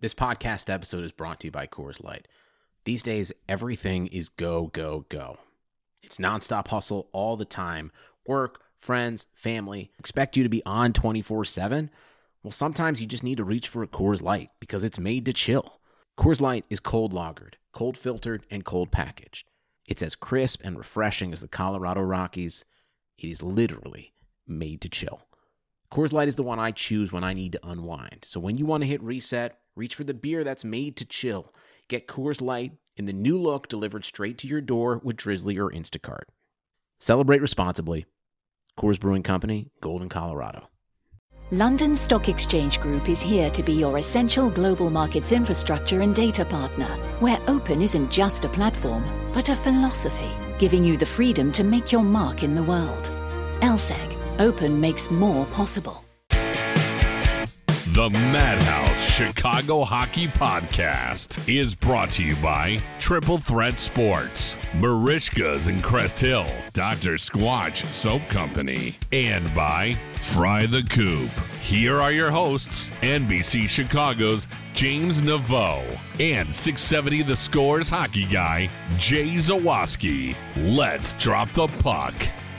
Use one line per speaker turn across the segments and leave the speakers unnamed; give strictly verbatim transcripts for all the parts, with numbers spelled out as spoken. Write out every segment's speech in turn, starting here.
This podcast episode is brought to you by Coors Light. These days, everything is go, go, go. It's nonstop hustle all the time. Work, friends, family, expect you to be on twenty-four seven. Well, sometimes you just need to reach for a Coors Light because it's made to chill. Coors Light is cold lagered, cold filtered, and cold packaged. It's as crisp and refreshing as the Colorado Rockies. It is literally made to chill. Coors Light is the one I choose when I need to unwind. So when you want to hit reset, reach for the beer that's made to chill. Get Coors Light in the new look delivered straight to your door with Drizzly or Instacart. Celebrate responsibly. Coors Brewing Company, Golden, Colorado.
London Stock Exchange Group is here to be your essential global markets infrastructure and data partner, where open isn't just a platform, but a philosophy, giving you the freedom to make your mark in the world. L S E C. Open makes more possible.
The Madhouse Chicago Hockey Podcast is brought to you by Triple Threat Sports, Marishka's in Crest Hill, Doctor Squatch Soap Company, and by Fry the Coop. Here are your hosts, N B C Chicago's James Naveau and six seventy The Score's hockey guy, Jay Zawaski. Let's drop the puck.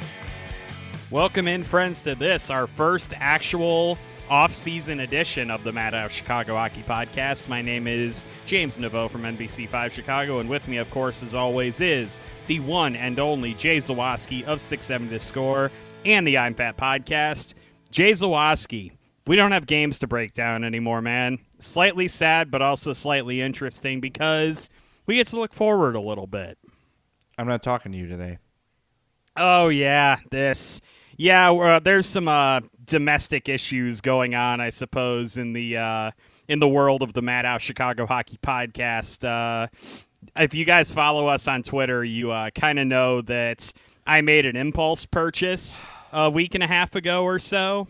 Welcome in, friends, to this, our first actual off-season edition of the Madhouse Chicago Hockey Podcast. My name is James Naveau from N B C five Chicago, and with me, of course, as always, is the one and only Jay Zawaski of six seventy The Score and the I'm Fat Podcast. Jay Zawaski, we don't have games to break down anymore, man. Slightly sad, but also slightly interesting because we get to look forward a little bit.
I'm not talking to you today.
Oh, yeah, this... Yeah, uh, there's some uh, domestic issues going on, I suppose, in the uh, in the world of the Madhouse Chicago Hockey Podcast. Uh, if you guys follow us on Twitter, you uh, kind of know that I made an impulse purchase a week and a half ago or so,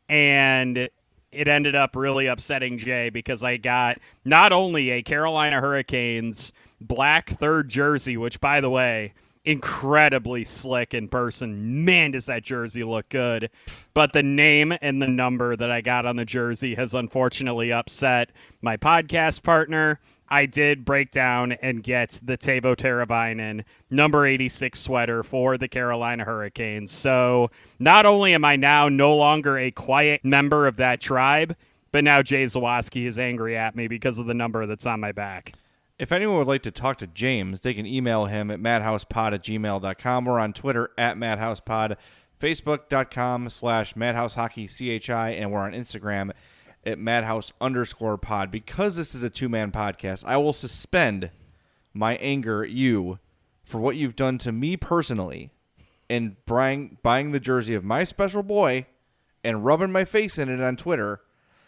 and it ended up really upsetting Jay because I got not only a Carolina Hurricanes black third jersey, which, by the way, incredibly slick in person. Man, does that jersey look good. But the name and the number that I got on the jersey has unfortunately upset my podcast partner. I did break down and get the Teuvo Teravainen number eighty-six sweater for the Carolina Hurricanes. So not only am I now no longer a quiet member of that tribe, but now Jay Zawaski is angry at me because of the number that's on my back.
If anyone would like to talk to James, they can email him at madhousepod at gmail dot com. We're on Twitter at madhousepod, facebook.com slash madhousehockeychi, and we're on Instagram at madhouse underscore pod. Because this is a two-man podcast, I will suspend my anger at you for what you've done to me personally in buying, buying the jersey of my special boy and rubbing my face in it on Twitter.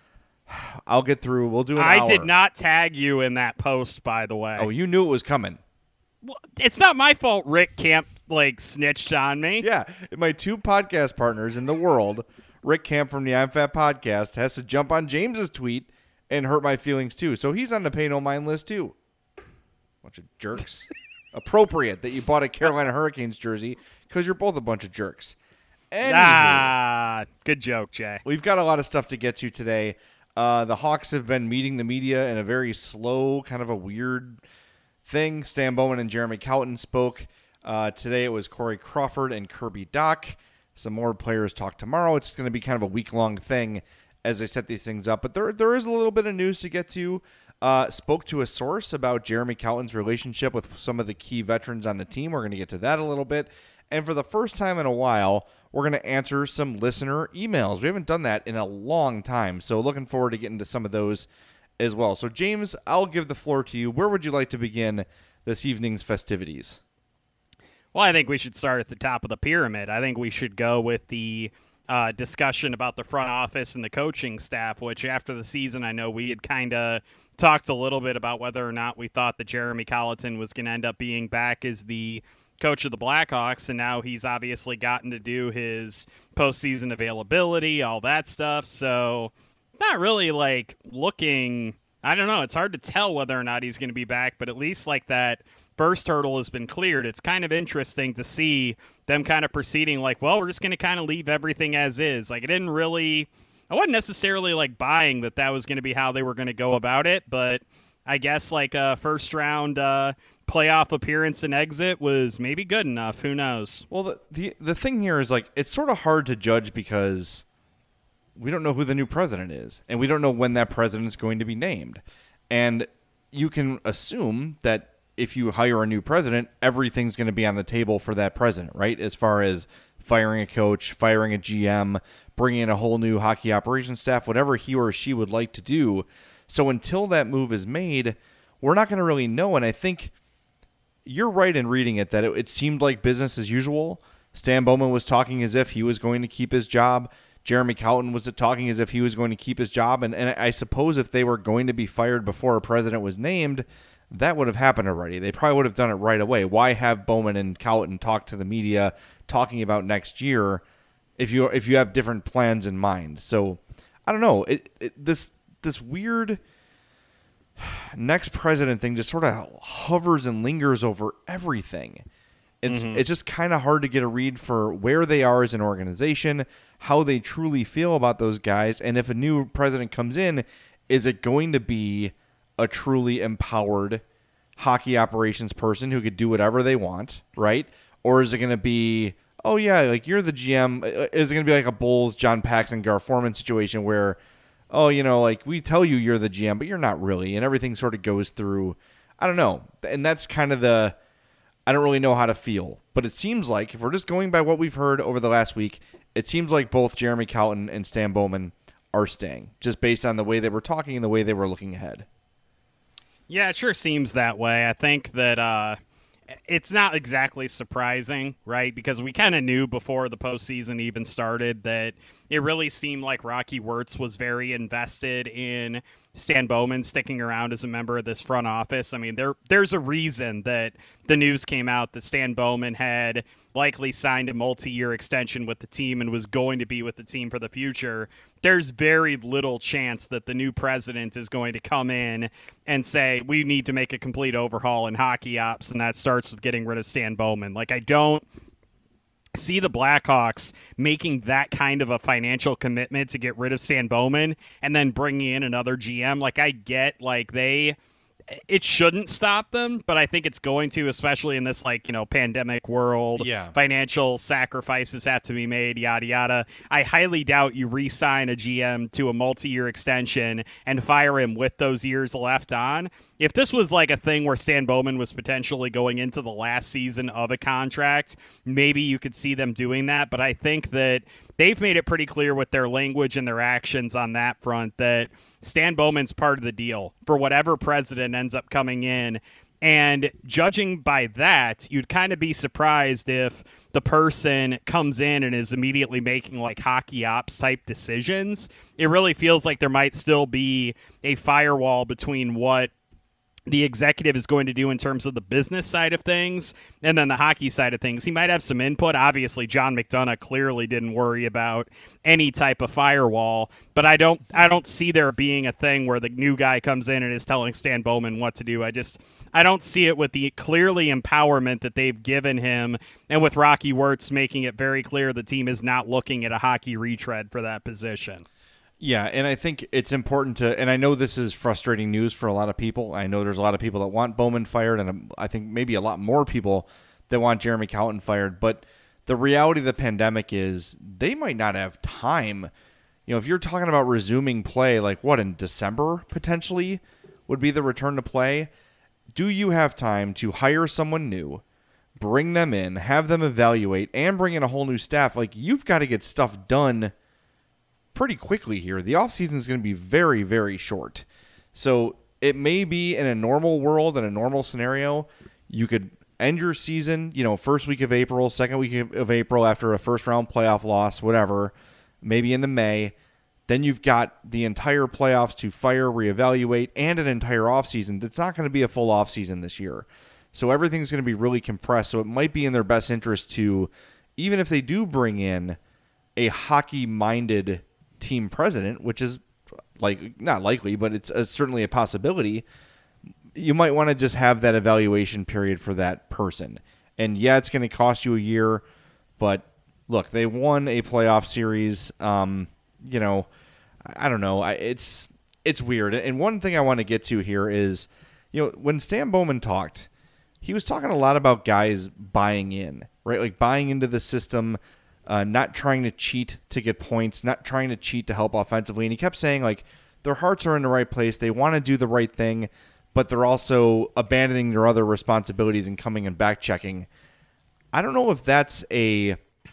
I'll get through. We'll do an
I
hour.
did not tag you in that post, by the way.
Oh, you knew it was coming.
Well, it's not my fault Rick Camp, like, snitched on me.
Yeah, my two podcast partners in the world, Rick Camp from the I'm Fat Podcast, has to jump on James's tweet and hurt my feelings, too. So he's on the pay no mind list, too. Bunch of jerks. Appropriate that you bought a Carolina Hurricanes jersey because you're both a bunch of jerks. Anywho,
Ah, good joke, Jay.
we've got a lot of stuff to get to today. Uh, the Hawks have been meeting the media in a very slow, kind of a weird thing. Stan Bowman and Jeremy Colliton spoke. Uh, today it was Corey Crawford and Kirby Dach. Some more players talk tomorrow. It's going to be kind of a week-long thing as they set these things up. But there, there is a little bit of news to get to. Uh, spoke to a source about Jeremy Colliton's relationship with some of the key veterans on the team. We're going to get to that a little bit. And for the first time in a while, we're going to answer some listener emails. We haven't done that in a long time, so looking forward to getting to some of those as well. So, James, I'll give the floor to you. Where would you like to begin this evening's festivities?
Well, I think we should start at the top of the pyramid. I think we should go with the uh, discussion about the front office and the coaching staff, which after the season, I know we had kind of talked a little bit about whether or not we thought that Jeremy Colliton was going to end up being back as the coach of the Blackhawks, and now he's obviously gotten to do his postseason availability, all that stuff. So not really like looking, I don't know, it's hard to tell whether or not he's going to be back, but at least like that first hurdle has been cleared. It's kind of interesting to see them kind of proceeding like, well, we're just going to kind of leave everything as is. Like, it didn't really I wasn't necessarily like buying that that was going to be how they were going to go about it, but I guess like a first round uh, playoff appearance and exit was maybe good enough. Who knows?
Well, the, the the thing here is like it's sort of hard to judge because we don't know who the new president is, and we don't know when that president is going to be named. And you can assume that if you hire a new president, everything's going to be on the table for that president, right? As far as firing a coach, firing a G M, bringing in a whole new hockey operations staff, whatever he or she would like to do. So until that move is made, we're not going to really know. And I think you're right in reading it that it, it seemed like business as usual. Stan Bowman was talking as if he was going to keep his job. Jeremy Colton was talking as if he was going to keep his job. And, and I suppose if they were going to be fired before a president was named, that would have happened already. They probably would have done it right away. Why have Bowman and Colton talk to the media talking about next year if you if you have different plans in mind? So I don't know. It, it, this this weird next president thing just sort of hovers and lingers over everything. It's mm-hmm. it's just kind of hard to get a read for where they are as an organization, how they truly feel about those guys, and if a new president comes in, is it going to be a truly empowered hockey operations person who could do whatever they want, right? Or is it going to be, oh yeah, like you're the G M? Is it going to be like a Bulls, John Paxson, Gar Forman situation where, oh, you know, like we tell you you're the G M, but you're not really, and everything sort of goes through, I don't know. And that's kind of the, I don't really know how to feel. But it seems like, if we're just going by what we've heard over the last week, it seems like both Jeremy Colton and Stan Bowman are staying, just based on the way they were talking and the way they were looking ahead.
Yeah, it sure seems that way. I think that uh, it's not exactly surprising, right? Because we kind of knew before the postseason even started that it really seemed like Rocky Wirtz was very invested in Stan Bowman sticking around as a member of this front office. I mean, there there's a reason that the news came out that Stan Bowman had likely signed a multi-year extension with the team and was going to be with the team for the future. There's very little chance that the new president is going to come in and say, we need to make a complete overhaul in hockey ops, and that starts with getting rid of Stan Bowman. Like, I don't see the Blackhawks making that kind of a financial commitment to get rid of Stan Bowman and then bringing in another G M. Like, I get, like, they... it shouldn't stop them, but I think it's going to, especially in this, like, you know, pandemic world.
Yeah.
Financial sacrifices have to be made, yada, yada. I highly doubt you re-sign a G M to a multi-year extension and fire him with those years left on. If this was like a thing where Stan Bowman was potentially going into the last season of a contract, maybe you could see them doing that. But I think that they've made it pretty clear with their language and their actions on that front that Stan Bowman's part of the deal for whatever president ends up coming in. And judging by that, you'd kind of be surprised if the person comes in and is immediately making like hockey ops type decisions. It really feels like there might still be a firewall between what the executive is going to do in terms of the business side of things and then the hockey side of things. He might have some input. Obviously, John McDonough clearly didn't worry about any type of firewall, but I don't I don't see there being a thing where the new guy comes in and is telling Stan Bowman what to do. I just I don't see it with the clearly empowerment that they've given him, and with Rocky Wirtz making it very clear the team is not looking at a hockey retread for that position.
Yeah, and I think it's important to, and I know this is frustrating news for a lot of people. I know there's a lot of people that want Bowman fired, and I think maybe a lot more people that want Jeremy Colton fired. But the reality of the pandemic is they might not have time. You know, if you're talking about resuming play, like what, in December potentially would be the return to play, do you have time to hire someone new, bring them in, have them evaluate, and bring in a whole new staff? Like, you've got to get stuff done pretty quickly here. The offseason is going to be very, very short. So it may be in a normal world, in a normal scenario, you could end your season, you know, first week of April, second week of April after a first round playoff loss, whatever, maybe into May. Then you've got the entire playoffs to fire, reevaluate, and an entire offseason. It's not going to be a full offseason this year. So everything's going to be really compressed. So it might be in their best interest to, even if they do bring in a hockey-minded team president, which is like not likely, but it's, it's certainly a possibility, you might want to just have that evaluation period for that person. And yeah, it's going to cost you a year, but look, they won a playoff series. Um, you know, I, I don't know. I, it's it's weird. And one thing I want to get to here is, you know, when Stan Bowman talked, he was talking a lot about guys buying in, right? Like buying into the system, uh, not trying to cheat to get points, not trying to cheat to help offensively. And he kept saying, like, their hearts are in the right place. They want to do the right thing, but they're also abandoning their other responsibilities and coming and back checking. I don't know if that's a...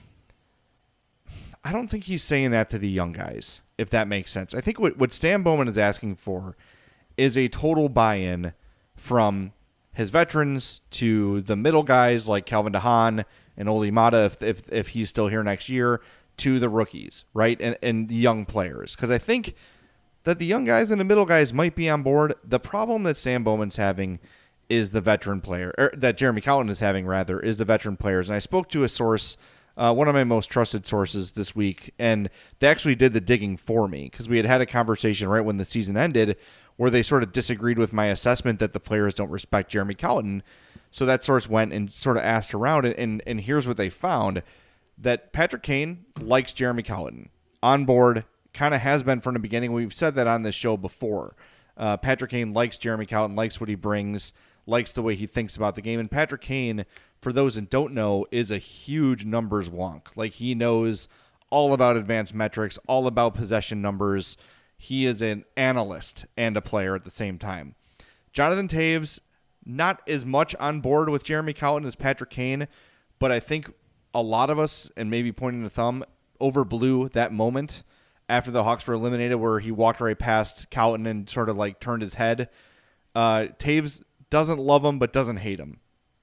I don't think he's saying that to the young guys, if that makes sense. I think what, what Stan Bowman is asking for is a total buy-in from his veterans to the middle guys like Calvin DeHaan and Oli Mata, if, if if he's still here next year, to the rookies, right, and, and the young players. Because I think that the young guys and the middle guys might be on board. The problem that Stan Bowman's having is the veteran player, or that Jeremy Colliton is having, rather, is the veteran players. And I spoke to a source, uh, one of my most trusted sources this week, and they actually did the digging for me because we had had a conversation right when the season ended where they sort of disagreed with my assessment that the players don't respect Jeremy Colliton. So that source went and sort of asked around, and, and, and here's what they found, that Patrick Kane likes Jeremy Colliton. On board, kind of has been from the beginning. We've said that on this show before. Uh, Patrick Kane likes Jeremy Colliton, likes what he brings, likes the way he thinks about the game. And Patrick Kane, for those that don't know, is a huge numbers wonk. Like, he knows all about advanced metrics, all about possession numbers. He is an analyst and a player at the same time. Jonathan Toews, not as much on board with Jeremy Colliton as Patrick Kane, but I think a lot of us, and maybe pointing the thumb, overblew that moment after the Hawks were eliminated where he walked right past Colliton and sort of like turned his head. Uh, Toews doesn't love him, but doesn't hate him.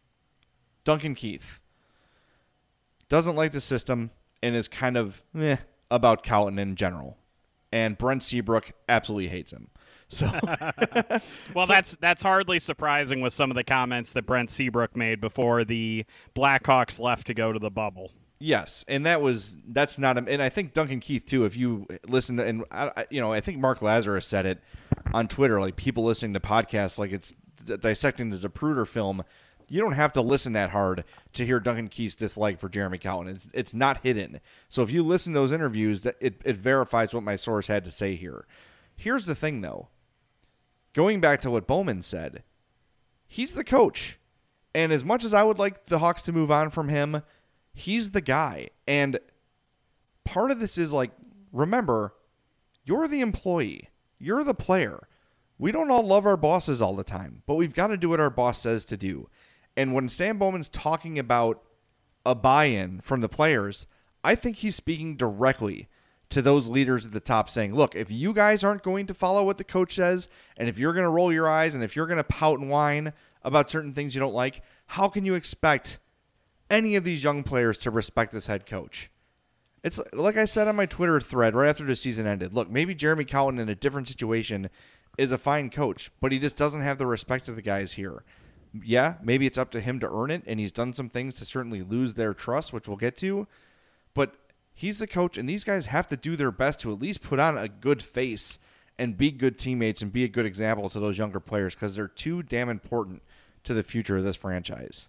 Duncan Keith doesn't like the system and is kind of meh about Colliton in general. And Brent Seabrook absolutely hates him. So,
well,
so,
that's that's hardly surprising with some of the comments that Brent Seabrook made before the Blackhawks left to go to the bubble.
Yes, and that was that's not a, and I think Duncan Keith too. If you listen to, and I, you know, I think Mark Lazarus said it on Twitter. Like, people listening to podcasts, like it's dissecting the Zapruder film. You don't have to listen that hard to hear Duncan Keith's dislike for Jeremy Colliton. It's, it's not hidden. So if you listen to those interviews, that it, it verifies what my source had to say here. Here's the thing, though. Going back to what Bowman said, he's the coach. And as much as I would like the Hawks to move on from him, he's the guy. And part of this is like, remember, you're the employee. You're the player. We don't all love our bosses all the time, but we've got to do what our boss says to do. And when Stan Bowman's talking about a buy-in from the players, I think he's speaking directly to those leaders at the top saying, look, if you guys aren't going to follow what the coach says, and if you're going to roll your eyes, and if you're going to pout and whine about certain things you don't like, how can you expect any of these young players to respect this head coach? It's like I said on my Twitter thread right after the season ended. Look, maybe Jeremy Colliton in a different situation is a fine coach, but he just doesn't have the respect of the guys here. Yeah, maybe it's up to him to earn it, and he's done some things to certainly lose their trust, which we'll get to, but he's the coach, and these guys have to do their best to at least put on a good face and be good teammates and be a good example to those younger players because they're too damn important to the future of this franchise.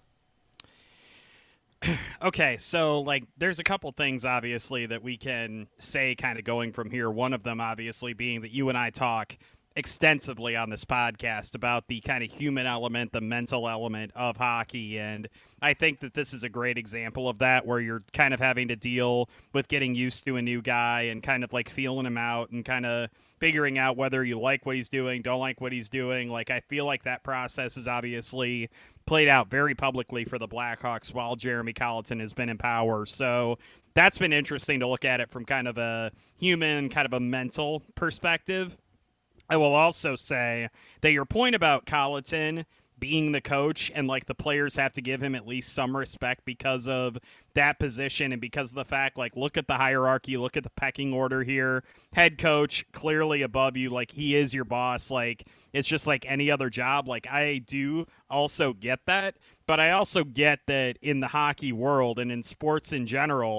Okay, so like there's a couple things obviously that we can say kind of going from here. One of them obviously being that you and I talk extensively on this podcast about the kind of human element, the mental element of hockey. And I think that this is a great example of that, where you're kind of having to deal with getting used to a new guy and kind of like feeling him out and kind of figuring out whether you like what he's doing, don't like what he's doing. Like, I feel like that process is obviously played out very publicly for the Blackhawks while Jeremy Colliton has been in power. So that's been interesting to look at it from kind of a human, kind of a mental perspective. I will also say that your point about Colliton being the coach and like the players have to give him at least some respect because of that position and because of the fact, like, look at the hierarchy, look at the pecking order here. Head coach clearly above you, like he is your boss. Like, it's just like any other job. Like, I do also get that, but I also get that in the hockey world and in sports in general,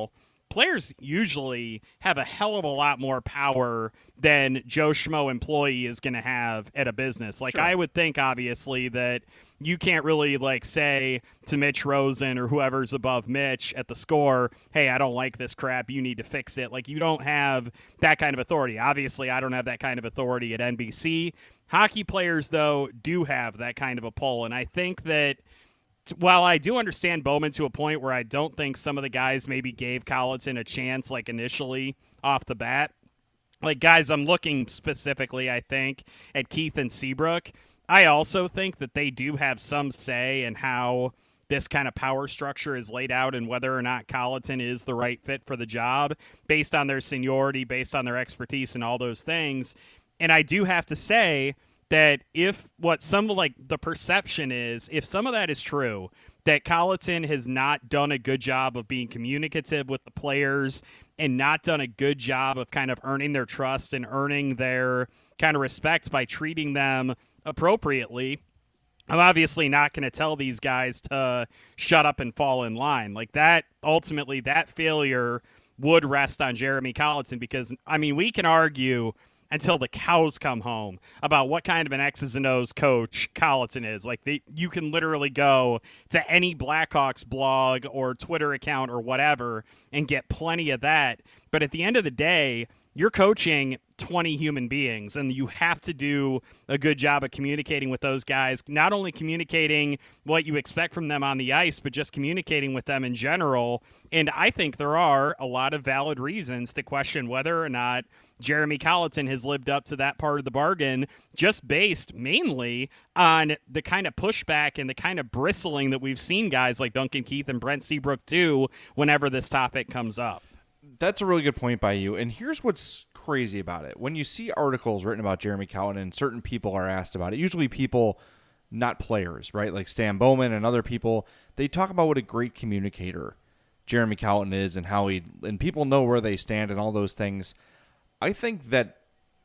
players usually have a hell of a lot more power than Joe Schmo employee is going to have at a business. Like,
Sure.
I would think, obviously, that you can't really, like, say to Mitch Rosen or whoever's above Mitch at the score, hey, I don't like this crap, you need to fix it. Like, you don't have that kind of authority. Obviously, I don't have that kind of authority at N B C. Hockey players, though, do have that kind of a pull, and I think that while I do understand Bowman to a point where I don't think some of the guys maybe gave Colliton a chance, like initially off the bat, like guys, I'm looking specifically, I think, at Keith and Seabrook. I also think that they do have some say in how this kind of power structure is laid out and whether or not Colliton is the right fit for the job based on their seniority, based on their expertise and all those things. And I do have to say that if what some of like the perception is, if some of that is true, that Colliton has not done a good job of being communicative with the players and not done a good job of kind of earning their trust and earning their kind of respect by treating them appropriately, I'm obviously not going to tell these guys to shut up and fall in line. Like that, ultimately, that failure would rest on Jeremy Colliton because, I mean, we can argue until the cows come home about what kind of an X's and O's coach Colliton is. Like, they, you can literally go to any Blackhawks blog or Twitter account or whatever and get plenty of that. But at the end of the day, you're coaching twenty human beings, and you have to do a good job of communicating with those guys, not only communicating what you expect from them on the ice, but just communicating with them in general. And I think there are a lot of valid reasons to question whether or not Jeremy Colliton has lived up to that part of the bargain, just based mainly on the kind of pushback and the kind of bristling that we've seen guys like Duncan Keith and Brent Seabrook do whenever this topic comes up.
That's a really good point by you. And here's what's crazy about it. When you see articles written about Jeremy Colliton and certain people are asked about it, usually people, not players, right? Like Stan Bowman and other people, they talk about what a great communicator Jeremy Colliton is and how he, and people know where they stand and all those things. I think that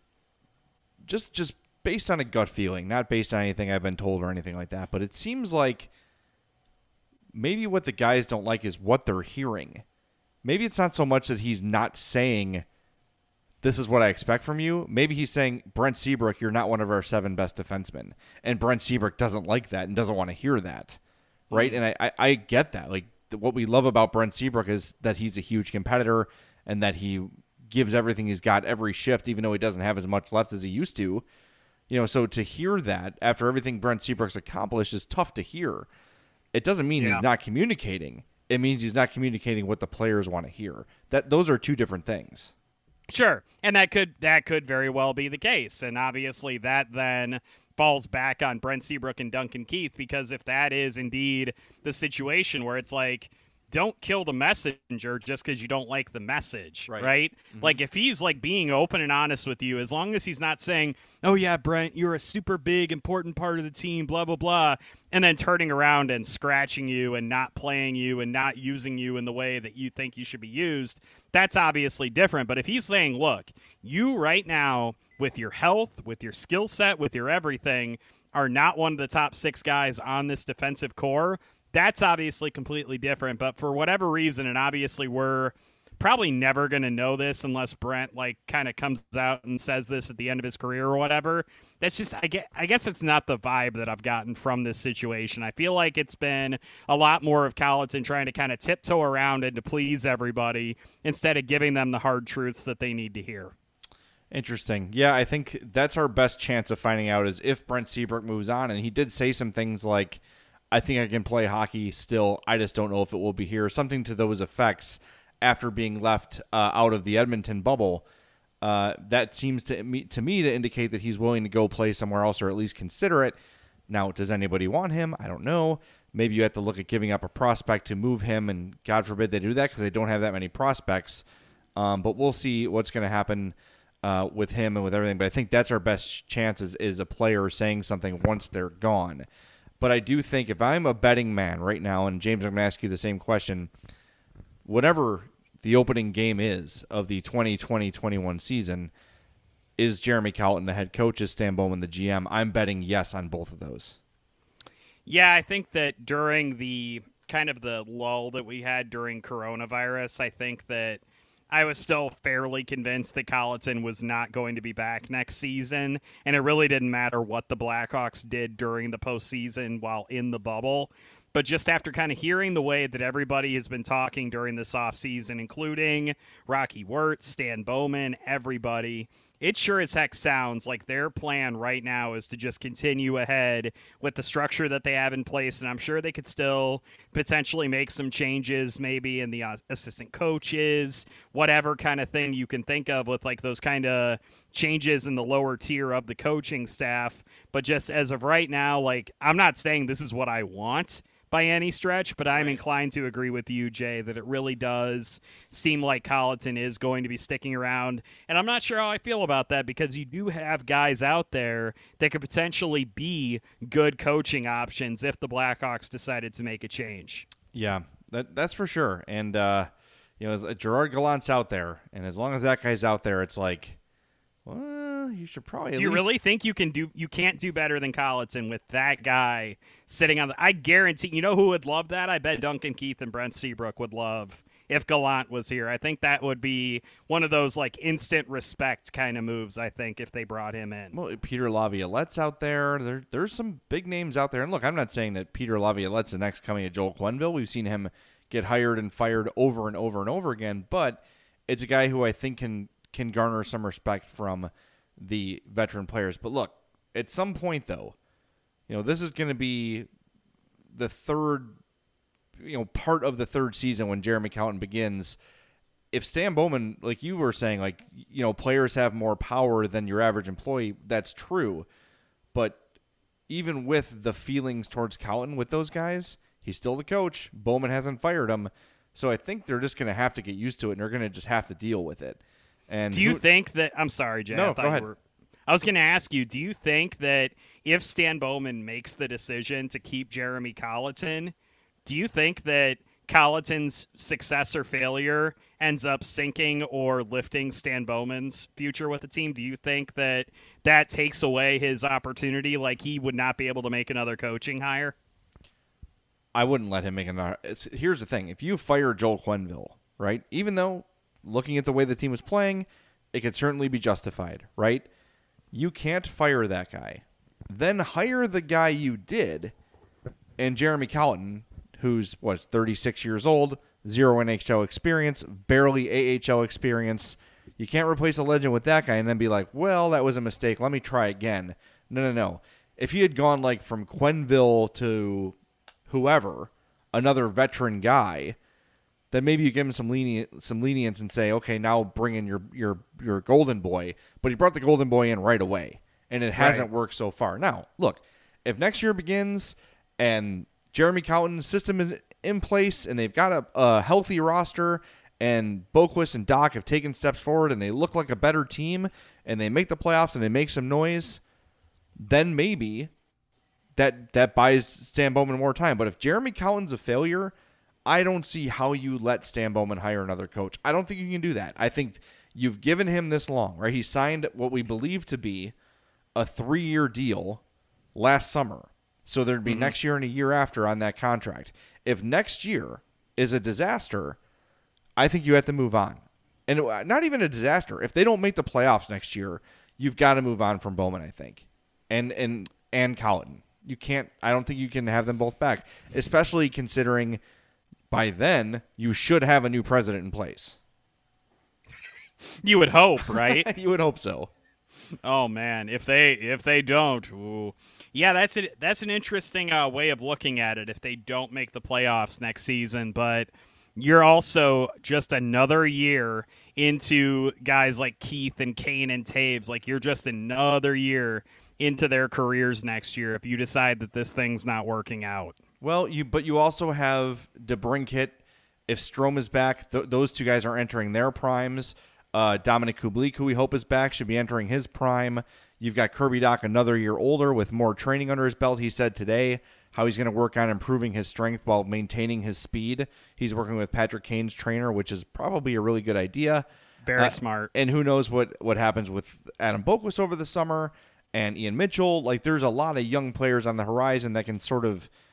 just just based on a gut feeling, not based on anything I've been told or anything like that, but it seems like maybe what the guys don't like is what they're hearing. Maybe it's not so much that he's not saying, this is what I expect from you. Maybe he's saying, Brent Seabrook, you're not one of our seven best defensemen. And Brent Seabrook doesn't like that and doesn't want to hear that. Right? Mm-hmm. And I, I, I get that. Like, what we love about Brent Seabrook is that he's a huge competitor and that he gives everything he's got every shift, even though he doesn't have as much left as he used to. You know, so to hear that after everything Brent Seabrook's accomplished is tough to hear. It doesn't mean yeah. he's not communicating. It means he's not communicating what the players want to hear. That those are two different things.
Sure, and that could that could very well be the case, and obviously that then falls back on Brent Seabrook and Duncan Keith, because if that is indeed the situation where it's like, don't kill the messenger just because you don't like the message, right? right? Mm-hmm. Like, if he's, like, being open and honest with you, as long as he's not saying, oh, yeah, Brent, you're a super big, important part of the team, blah, blah, blah, and then turning around and scratching you and not playing you and not using you in the way that you think you should be used, that's obviously different. But if he's saying, look, you right now, with your health, with your skill set, with your everything, are not one of the top six guys on this defensive core, that's obviously completely different. But for whatever reason, and obviously we're probably never going to know this unless Brent, like, kind of comes out and says this at the end of his career or whatever. That's just, I guess, I guess it's not the vibe that I've gotten from this situation. I feel like it's been a lot more of Colliton trying to kind of tiptoe around and to please everybody instead of giving them the hard truths that they need to hear.
Interesting. Yeah, I think that's our best chance of finding out is if Brent Seabrook moves on. And he did say some things like, I think I can play hockey still. I just don't know if it will be here. Something to those effects after being left uh, out of the Edmonton bubble. Uh, that seems to me, to me to indicate that he's willing to go play somewhere else or at least consider it. Now, does anybody want him? I don't know. Maybe you have to look at giving up a prospect to move him, and God forbid they do that because they don't have that many prospects. Um, but we'll see what's going to happen uh, with him and with everything. But I think that's our best chance is, is a player saying something once they're gone. But I do think if I'm a betting man right now, and James, I'm going to ask you the same question, whatever the opening game is of the twenty twenty twenty-one season, is Jeremy Colliton the head coach, is Stan Bowman the G M? I'm betting yes on both of those.
Yeah, I think that during the kind of the lull that we had during coronavirus, I think that I was still fairly convinced that Colliton was not going to be back next season, and it really didn't matter what the Blackhawks did during the postseason while in the bubble. But just after kind of hearing the way that everybody has been talking during this offseason, including Rocky Wirtz, Stan Bowman, everybody, it sure as heck sounds like their plan right now is to just continue ahead with the structure that they have in place. And I'm sure they could still potentially make some changes, maybe in the uh, assistant coaches, whatever kind of thing you can think of with like those kind of changes in the lower tier of the coaching staff. But just as of right now, like, I'm not saying this is what I want by any stretch, but I'm inclined to agree with you, Jay, that it really does seem like Colliton is going to be sticking around. And I'm not sure how I feel about that, because you do have guys out there that could potentially be good coaching options if the Blackhawks decided to make a change.
Yeah, that that's for sure. And, uh, you know, as, uh, Gerard Gallant's out there, and as long as that guy's out there, it's like, well, you should probably.
Do you
least...
really think you can do? You can't do better than Colliton with that guy sitting on the. I guarantee. You know who would love that? I bet Duncan Keith and Brent Seabrook would love if Gallant was here. I think that would be one of those like instant respect kind of moves. I think if they brought him in.
Well, Peter Laviolette's out there. There, there's some big names out there. And look, I'm not saying that Peter Laviolette's the next coming of Joel Quenneville. We've seen him get hired and fired over and over and over again. But it's a guy who I think can. can garner some respect from the veteran players. But look, at some point, though, you know, this is going to be the third, you know, part of the third season when Jeremy Colliton begins. If Stan Bowman, like you were saying, like, you know, players have more power than your average employee, that's true. But even with the feelings towards Colliton with those guys, he's still the coach. Bowman hasn't fired him. So I think they're just going to have to get used to it, and they're going to just have to deal with it. And
do you
who,
think that – I'm sorry, Jay.
No,
I thought
go ahead.
You were, I was going to ask you, do you think that if Stan Bowman makes the decision to keep Jeremy Colliton, do you think that Colliton's success or failure ends up sinking or lifting Stan Bowman's future with the team? Do you think that that takes away his opportunity, like he would not be able to make another coaching hire?
I wouldn't let him make another – here's the thing. If you fire Joel Quenneville, right, even though – looking at the way the team was playing, it could certainly be justified, right? You can't fire that guy. Then hire the guy you did, and Jeremy Colliton, who's, what, thirty-six years old, zero N H L experience, barely A H L experience. You can't replace a legend with that guy and then be like, well, that was a mistake. Let me try again. No, no, no. If he had gone, like, from Quenneville to whoever, another veteran guy, then maybe you give him some lenient, some lenience and say, okay, now bring in your your your golden boy. But he brought the golden boy in right away, and it hasn't right. worked so far. Now, look, if next year begins and Jeremy Colliton's system is in place and they've got a, a healthy roster and Boquist and Doc have taken steps forward and they look like a better team and they make the playoffs and they make some noise, then maybe that that buys Stan Bowman more time. But if Jeremy Colliton's a failure, I don't see how you let Stan Bowman hire another coach. I don't think you can do that. I think you've given him this long, right? He signed what we believe to be a three-year deal last summer. So there'd be mm-hmm. next year and a year after on that contract. If next year is a disaster, I think you have to move on. And not even a disaster. If they don't make the playoffs next year, you've got to move on from Bowman, I think. And and and Colliton. You can't I don't think you can have them both back, especially considering by then, you should have a new president in place.
You would hope, right?
You would hope so.
Oh man, if they if they don't, ooh. yeah, that's a, that's an interesting uh, way of looking at it. If they don't make the playoffs next season, but you're also just another year into guys like Keith and Kane and Taves. Like you're just another year into their careers next year if you decide that this thing's not working out.
Well, you but you also have DeBrincat. If Strome is back, th- those two guys are entering their primes. Uh, Dominic Kubalik, who we hope is back, should be entering his prime. You've got Kirby Dach another year older with more training under his belt. He said today how he's going to work on improving his strength while maintaining his speed. He's working with Patrick Kane's trainer, which is probably a really good idea.
Very
uh,
smart.
And who knows what, what happens with Adam Boquist over the summer and Ian Mitchell. Like, there's a lot of young players on the horizon that can sort of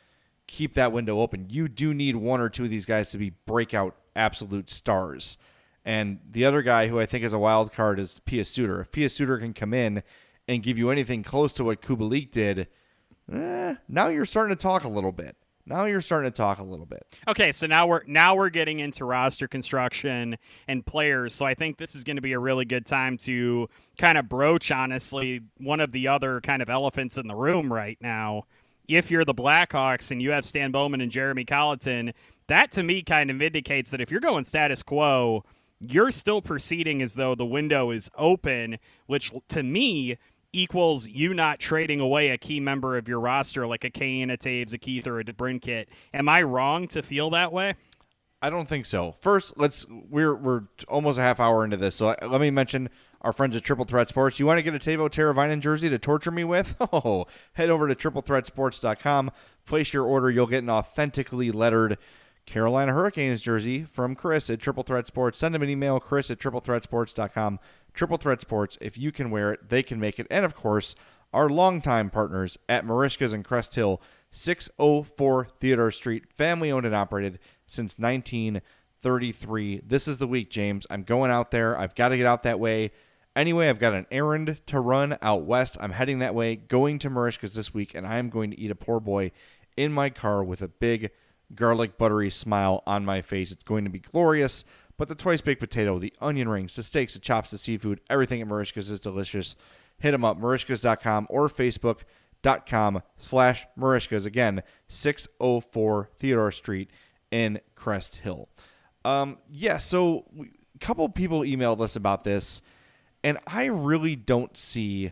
keep that window open. You do need one or two of these guys to be breakout absolute stars. And the other guy who I think is a wild card is Pius Suter. If Pius Suter can come in and give you anything close to what Kubalik did, eh, now you're starting to talk a little bit. Now you're starting to talk a little bit.
Okay, so now we're now we're getting into roster construction and players. So I think this is going to be a really good time to kind of broach, honestly, one of the other kind of elephants in the room right now. If you're the Blackhawks and you have Stan Bowman and Jeremy Colleton, that to me kind of indicates that if you're going status quo, you're still proceeding as though the window is open, which to me equals you not trading away a key member of your roster like a Kane, a Taves, a Keith, or a DeBrincat. Am I wrong to feel that way?
I don't think so. First, let's we're we're almost a half hour into this, so let me mention our friends at Triple Threat Sports. You want to get a Teuvo Teravainen jersey to torture me with? Oh, head over to triple threat sports dot com. Place your order. You'll get an authentically lettered Carolina Hurricanes jersey from Chris at Triple Threat Sports. Send him an email, Chris at triple threat sports dot com. Triple Threat Sports, if you can wear it, they can make it. And, of course, our longtime partners at Merichka's in Crest Hill, six oh four Theodore Street, family-owned and operated since nineteen thirty-three. This is the week, James. I'm going out there. I've got to get out that way. Anyway, I've got an errand to run out west. I'm heading that way, going to Merichka's this week, and I am going to eat a poor boy in my car with a big garlic buttery smile on my face. It's going to be glorious. But the twice baked potato, the onion rings, the steaks, the chops, the seafood, everything at Merichka's is delicious. Hit them up, Merichkas dot com or Facebook dot com slash Merichkas. Again, six oh four Theodore Street in Crest Hill. Um, yeah, so we, a couple people emailed us about this, and I really don't see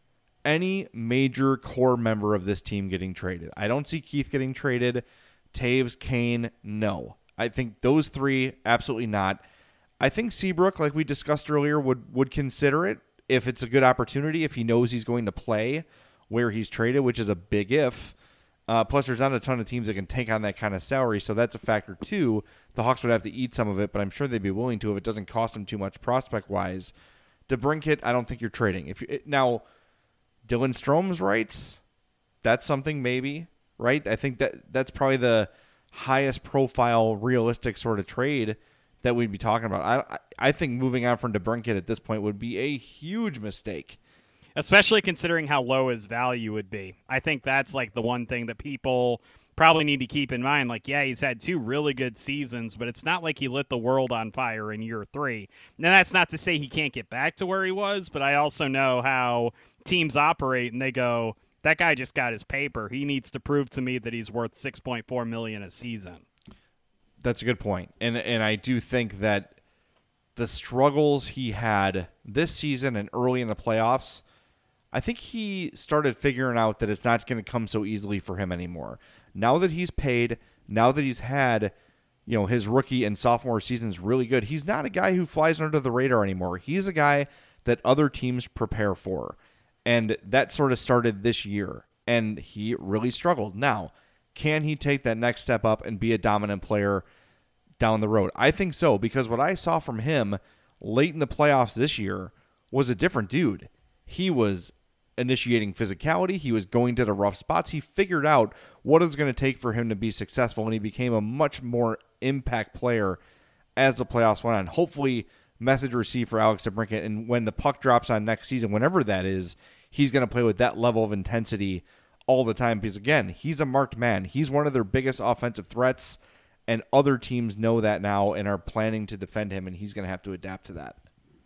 any major core member of this team getting traded. I don't see Keith getting traded. Taves, Kane, no. I think those three, absolutely not. I think Seabrook, like we discussed earlier, would, would consider it if it's a good opportunity, if he knows he's going to play where he's traded, which is a big if. Uh, plus, there's not a ton of teams that can take on that kind of salary, so that's a factor too. The Hawks would have to eat some of it, but I'm sure they'd be willing to if it doesn't cost them too much prospect-wise. DeBrincat, I don't think you're trading. If you, now, Dylan Strome's rights, that's something maybe, right? I think that that's probably the highest profile, realistic sort of trade that we'd be talking about. I I think moving on from DeBrincat at this point would be a huge mistake.
Especially considering how low his value would be. I think that's like the one thing that people probably need to keep in mind. Like, yeah, he's had two really good seasons, but it's not like he lit the world on fire in year three. Now, that's not to say he can't get back to where he was, but I also know how teams operate, and they go, that guy just got his paper. He needs to prove to me that he's worth six point four million dollars a season.
That's a good point. And and I do think that the struggles he had this season and early in the playoffs, I think he started figuring out that it's not going to come so easily for him anymore. Now that he's paid, now that he's had, you know, his rookie and sophomore seasons really good, he's not a guy who flies under the radar anymore. He's a guy that other teams prepare for. And that sort of started this year, and he really struggled. Now, can he take that next step up and be a dominant player down the road? I think so, because what I saw from him late in the playoffs this year was a different dude. He was initiating physicality. He was going to the rough spots. He figured out what it was going to take for him to be successful, and he became a much more impact player as the playoffs went on. Hopefully, message received for Alex DeBrincat, and when the puck drops on next season, whenever that is, he's going to play with that level of intensity all the time because, again, he's a marked man. He's one of their biggest offensive threats, and other teams know that now and are planning to defend him, and he's going to have to adapt to that.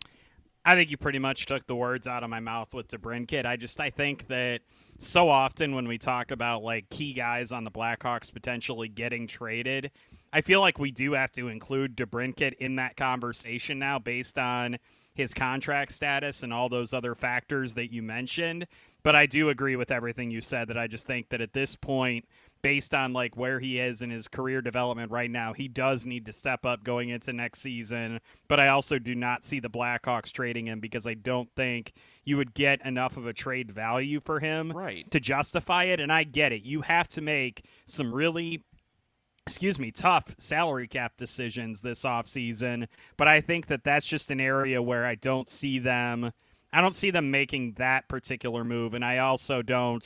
I think you pretty much took the words out of my mouth with DeBrincat. I just I think that so often when we talk about like key guys on the Blackhawks potentially getting traded, I feel like we do have to include DeBrincat in that conversation now based on his contract status and all those other factors that you mentioned. But I do agree with everything you said, that I just think that at this point, based on like where he is in his career development right now, he does need to step up going into next season. But I also do not see the Blackhawks trading him because I don't think you would get enough of a trade value for him
right.
to justify it. And I get it. You have to make some really excuse me, tough salary cap decisions this offseason. But I think that that's just an area where I don't see them I don't see them making that particular move. And I also don't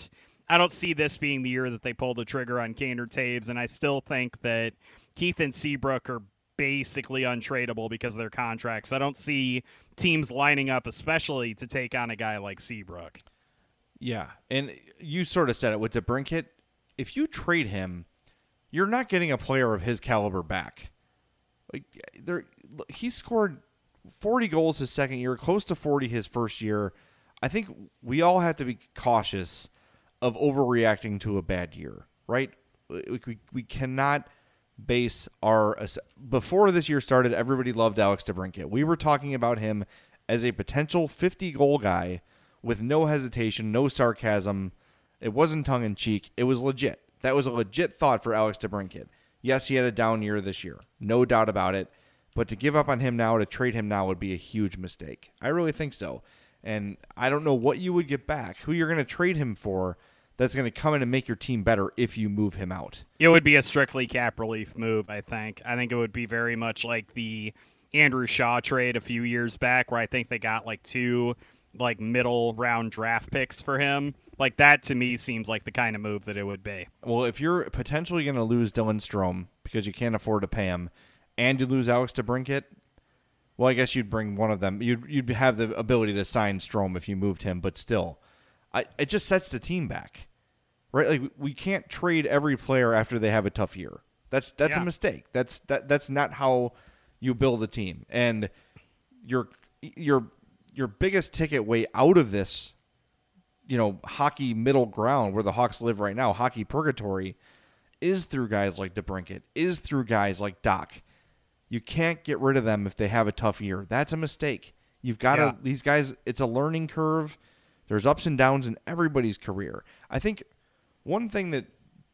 I don't see this being the year that they pull the trigger on Kane or Taves, and I still think that Keith and Seabrook are basically untradeable because of their contracts. I don't see teams lining up, especially to take on a guy like Seabrook.
Yeah, and you sort of said it with DeBrincat. If you trade him, you're not getting a player of his caliber back. Like there, he scored forty goals his second year, close to forty his first year. I think we all have to be cautious of overreacting to a bad year, right? We we cannot base our before this year started. Everybody loved Alex DeBrincat. We were talking about him as a potential fifty goal guy with no hesitation, no sarcasm. It wasn't tongue in cheek. It was legit. That was a legit thought for Alex DeBrincat. Yes, he had a down year this year, no doubt about it. But to give up on him now, to trade him now, would be a huge mistake. I really think so. And I don't know what you would get back, who you're going to trade him for that's going to come in and make your team better if you move him out.
It would be a strictly cap relief move, I think. I think it would be very much like the Andrew Shaw trade a few years back where I think they got like two like middle round draft picks for him. Like that to me seems like the kind of move that it would be.
Well, if you're potentially going to lose Dylan Strome because you can't afford to pay him and you lose Alex DeBrincat, well, I guess you'd bring one of them. You'd you'd have the ability to sign Strome if you moved him, but still, I, it just sets the team back, right? Like we can't trade every player after they have a tough year. That's that's
yeah.
a mistake. That's that that's not how you build a team. And your your your biggest ticket way out of this, you know, hockey middle ground where the Hawks live right now, hockey purgatory, is through guys like DeBrincat, is through guys like Doc. You can't get rid of them if they have a tough year. That's a mistake. You've got to, yeah. these guys, it's a learning curve. There's ups and downs in everybody's career. I think one thing that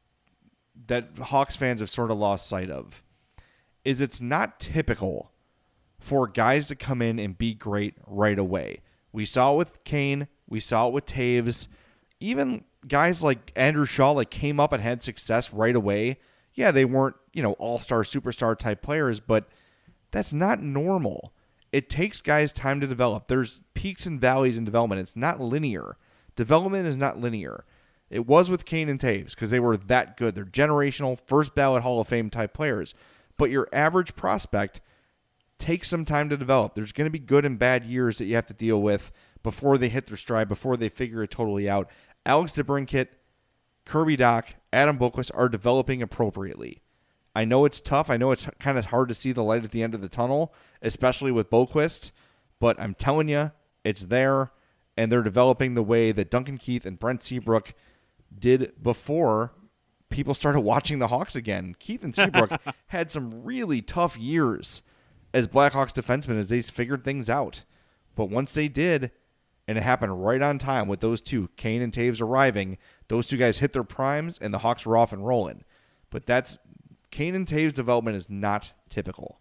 that Hawks fans have sort of lost sight of is it's not typical for guys to come in and be great right away. We saw it with Kane. We saw it with Taves. Even guys like Andrew Shaw like came up and had success right away. Yeah, they weren't, you know, all-star, superstar type players, but that's not normal. It takes guys time to develop. There's peaks and valleys in development. It's not linear. Development is not linear. It was with Kane and Taves because they were that good. They're generational, first ballot Hall of Fame type players. But your average prospect takes some time to develop. There's going to be good and bad years that you have to deal with before they hit their stride, before they figure it totally out. Alex DeBrincat, Kirby Dach, Adam Boqvist are developing appropriately. I know it's tough. I know it's kind of hard to see the light at the end of the tunnel, especially with Boqvist, but I'm telling you, it's there, and they're developing the way that Duncan Keith and Brent Seabrook did before people started watching the Hawks again. Keith and Seabrook had some really tough years as Blackhawks defensemen as they figured things out. But once they did, and it happened right on time with those two, Kane and Taves arriving, those two guys hit their primes, and the Hawks were off and rolling. But that's Kane and Taves' development is not typical.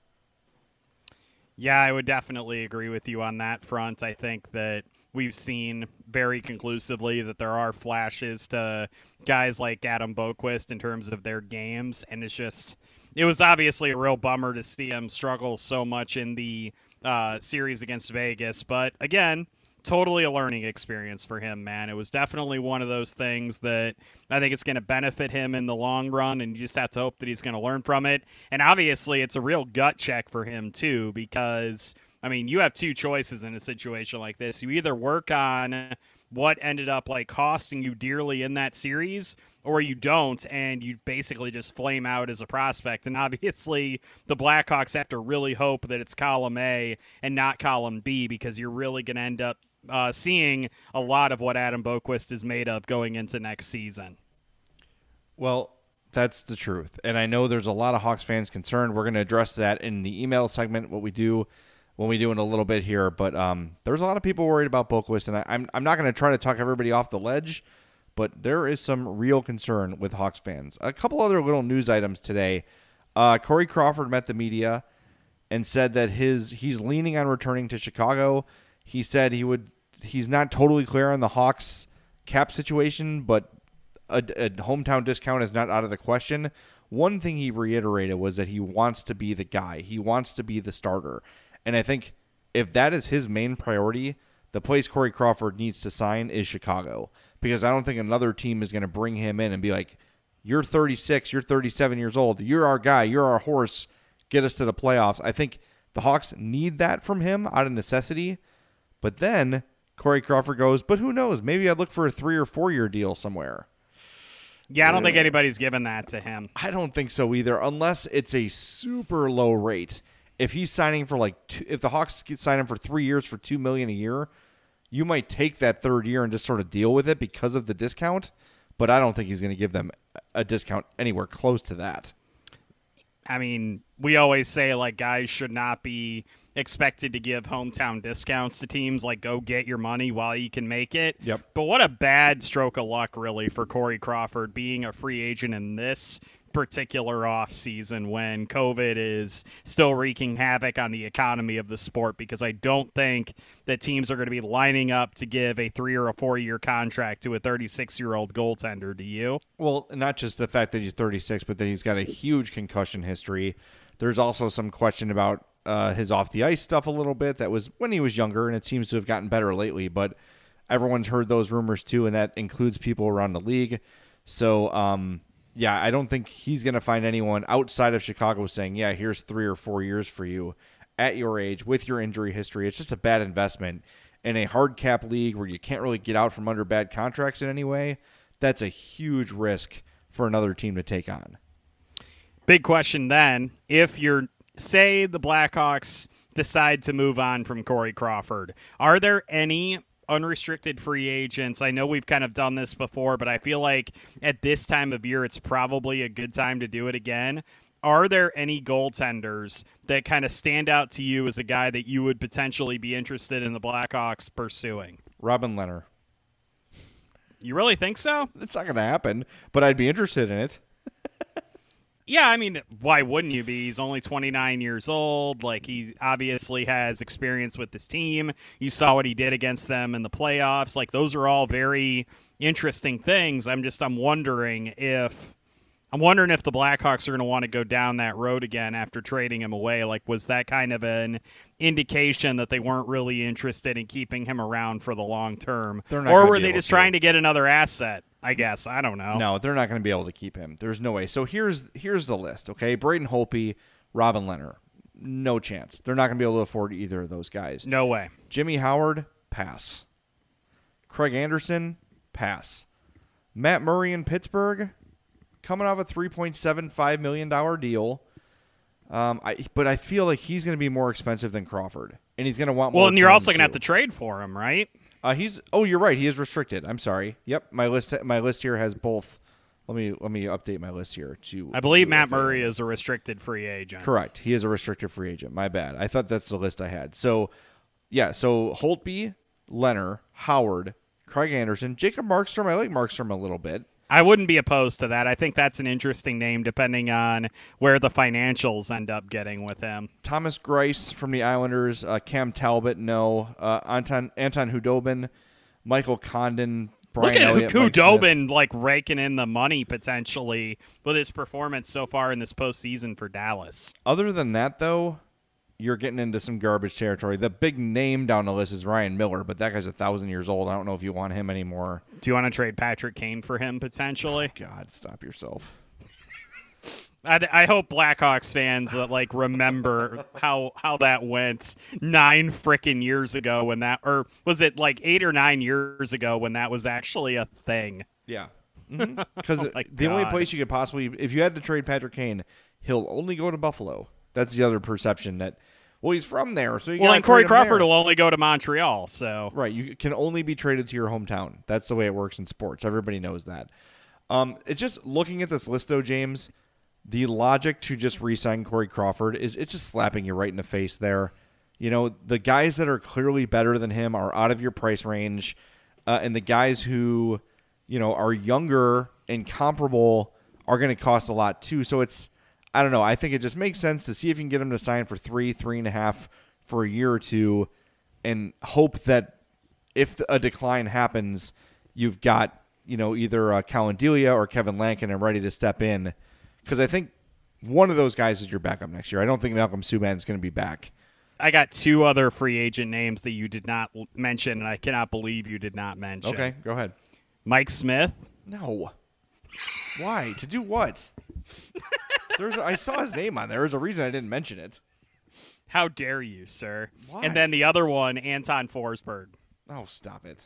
Yeah, I would definitely agree with you on that front. I think that we've seen very conclusively that there are flashes to guys like Adam Boqvist in terms of their games, and it's just it was obviously a real bummer to see him struggle so much in the uh, series against Vegas. But again, totally a learning experience for him, man. It was definitely one of those things that I think it's going to benefit him in the long run, and you just have to hope that he's going to learn from it. And obviously, it's a real gut check for him, too, because, I mean, you have two choices in a situation like this. You either work on what ended up, like, costing you dearly in that series, or you don't, and you basically just flame out as a prospect. And obviously, the Blackhawks have to really hope that it's column A and not column B, because you're really going to end up Uh, seeing a lot of what Adam Boqvist is made of going into next season.
Well, that's the truth. And I know there's a lot of Hawks fans concerned. We're going to address that in the email segment, what we do when we do in a little bit here. But um, there's a lot of people worried about Boqvist, and I, I'm, I'm not going to try to talk everybody off the ledge, but there is some real concern with Hawks fans. A couple other little news items today. Uh, Corey Crawford met the media and said that his he's leaning on returning to Chicago. He said he would. He's not totally clear on the Hawks cap situation, but a, a hometown discount is not out of the question. One thing he reiterated was that he wants to be the guy. He wants to be the starter. And I think if that is his main priority, the place Corey Crawford needs to sign is Chicago, because I don't think another team is going to bring him in and be like, you're thirty-six, you're thirty-seven years old, you're our guy, you're our horse, get us to the playoffs. I think the Hawks need that from him out of necessity. But then Corey Crawford goes, but who knows? Maybe I'd look for a three or four year deal somewhere.
Yeah, I don't uh, think anybody's given that to him.
I don't think so either, unless it's a super low rate. If he's signing for like, two, if the Hawks sign him for three years for two million dollars a year, you might take that third year and just sort of deal with it because of the discount. But I don't think he's going to give them a discount anywhere close to that.
I mean, we always say, like, guys should not be expected to give hometown discounts to teams. Like, go get your money while you can make it.
Yep.
But what a bad stroke of luck, really, for Corey Crawford being a free agent in this particular offseason when COVID is still wreaking havoc on the economy of the sport, because I don't think that teams are going to be lining up to give a three or a four-year contract to a thirty-six-year-old goaltender. Do you?
Well, not just the fact that he's thirty-six, but that he's got a huge concussion history. There's also some question about uh, his off-the-ice stuff a little bit. That was when he was younger, and it seems to have gotten better lately, but everyone's heard those rumors too, and that includes people around the league. So, um... yeah, I don't think he's going to find anyone outside of Chicago saying, yeah, here's three or four years for you at your age with your injury history. It's just a bad investment in a hard cap league where you can't really get out from under bad contracts in any way. That's a huge risk for another team to take on.
Big question then, if you're, say the Blackhawks decide to move on from Corey Crawford, are there any unrestricted free agents? I know we've kind of done this before, but I feel like at this time of year, it's probably a good time to do it again. Are there any goaltenders that kind of stand out to you as a guy that you would potentially be interested in the Blackhawks pursuing?
Robin Lehner.
You really think so?
It's not going to happen, but I'd be interested in it.
Yeah, I mean, why wouldn't you be? He's only twenty-nine years old. Like, he obviously has experience with this team. You saw what he did against them in the playoffs. Like, those are all very interesting things. I'm just, I'm wondering if, I'm wondering if the Blackhawks are going to want to go down that road again after trading him away. Like, was that kind of an indication that they weren't really interested in keeping him around for the long term? Or were they just to. trying to get another asset? I guess. I don't know.
No, they're not going to be able to keep him. There's no way. So here's here's the list, okay? Braden Holtby, Robin Lehner. No chance. They're not going to be able to afford either of those guys.
No way.
Jimmy Howard, pass. Craig Anderson, pass. Matt Murray in Pittsburgh, coming off a three point seven five million dollars deal. Um, I, but I feel like he's going to be more expensive than Crawford, and he's going to want more.
Well, and you're also going to have to trade for him, right?
Uh, he's oh, you're right. He is restricted. I'm sorry. Yep, my list my list here has both. Let me let me update my list here. To
I believe Matt Murray is a restricted free agent.
Correct. He is a restricted free agent. My bad. I thought that's the list I had. So, yeah. So Holtby, Lehner, Howard, Craig Anderson, Jacob Markstrom. I like Markstrom a little bit.
I wouldn't be opposed to that. I think that's an interesting name depending on where the financials end up getting with him.
Thomas Greiss from the Islanders, uh, Cam Talbot, no. Uh, Anton Anton Hudobin, Michael Condon, Brian
Look at
Elliott,
Hudobin like raking in the money potentially with his performance so far in this postseason for Dallas.
Other than that, though, you're getting into some garbage territory. The big name down the list is Ryan Miller, but that guy's a thousand years old. I don't know if you want him anymore.
Do you want to trade Patrick Kane for him potentially?
Oh, God, stop yourself.
I, I hope Blackhawks fans uh, like remember how how that went nine frickin' years ago when that, or was it like eight or nine years ago when that was actually a thing?
Yeah, because mm-hmm. oh the
God.
only place you could possibly, if you had to trade Patrick Kane, he'll only go to Buffalo. That's the other perception that, well, he's from there. So you
well, and Corey Crawford will only go to Montreal. So
right, you can only be traded to your hometown. That's the way it works in sports. Everybody knows that. Um, it's just looking at this list, though, James. The logic to just re-sign Corey Crawford is it's just slapping you right in the face there. You know, the guys that are clearly better than him are out of your price range, uh, and the guys who, you know, are younger and comparable are going to cost a lot too. So it's, I don't know. I think it just makes sense to see if you can get him to sign for three, three and a half for a year or two, and hope that if a decline happens, you've got, you know, either uh, Colin Delia or Kevin Lankinen ready to step in. Because I think one of those guys is your backup next year. I don't think Malcolm Subban is going to be back.
I got two other free agent names that you did not mention, and I cannot believe you did not mention.
Okay, go ahead.
Mike Smith?
No. Why? To do what? There's a, I saw his name on there. There's a reason I didn't mention it.
How dare you, sir?
Why?
And then the other one, Anton Forsberg.
Oh, stop it.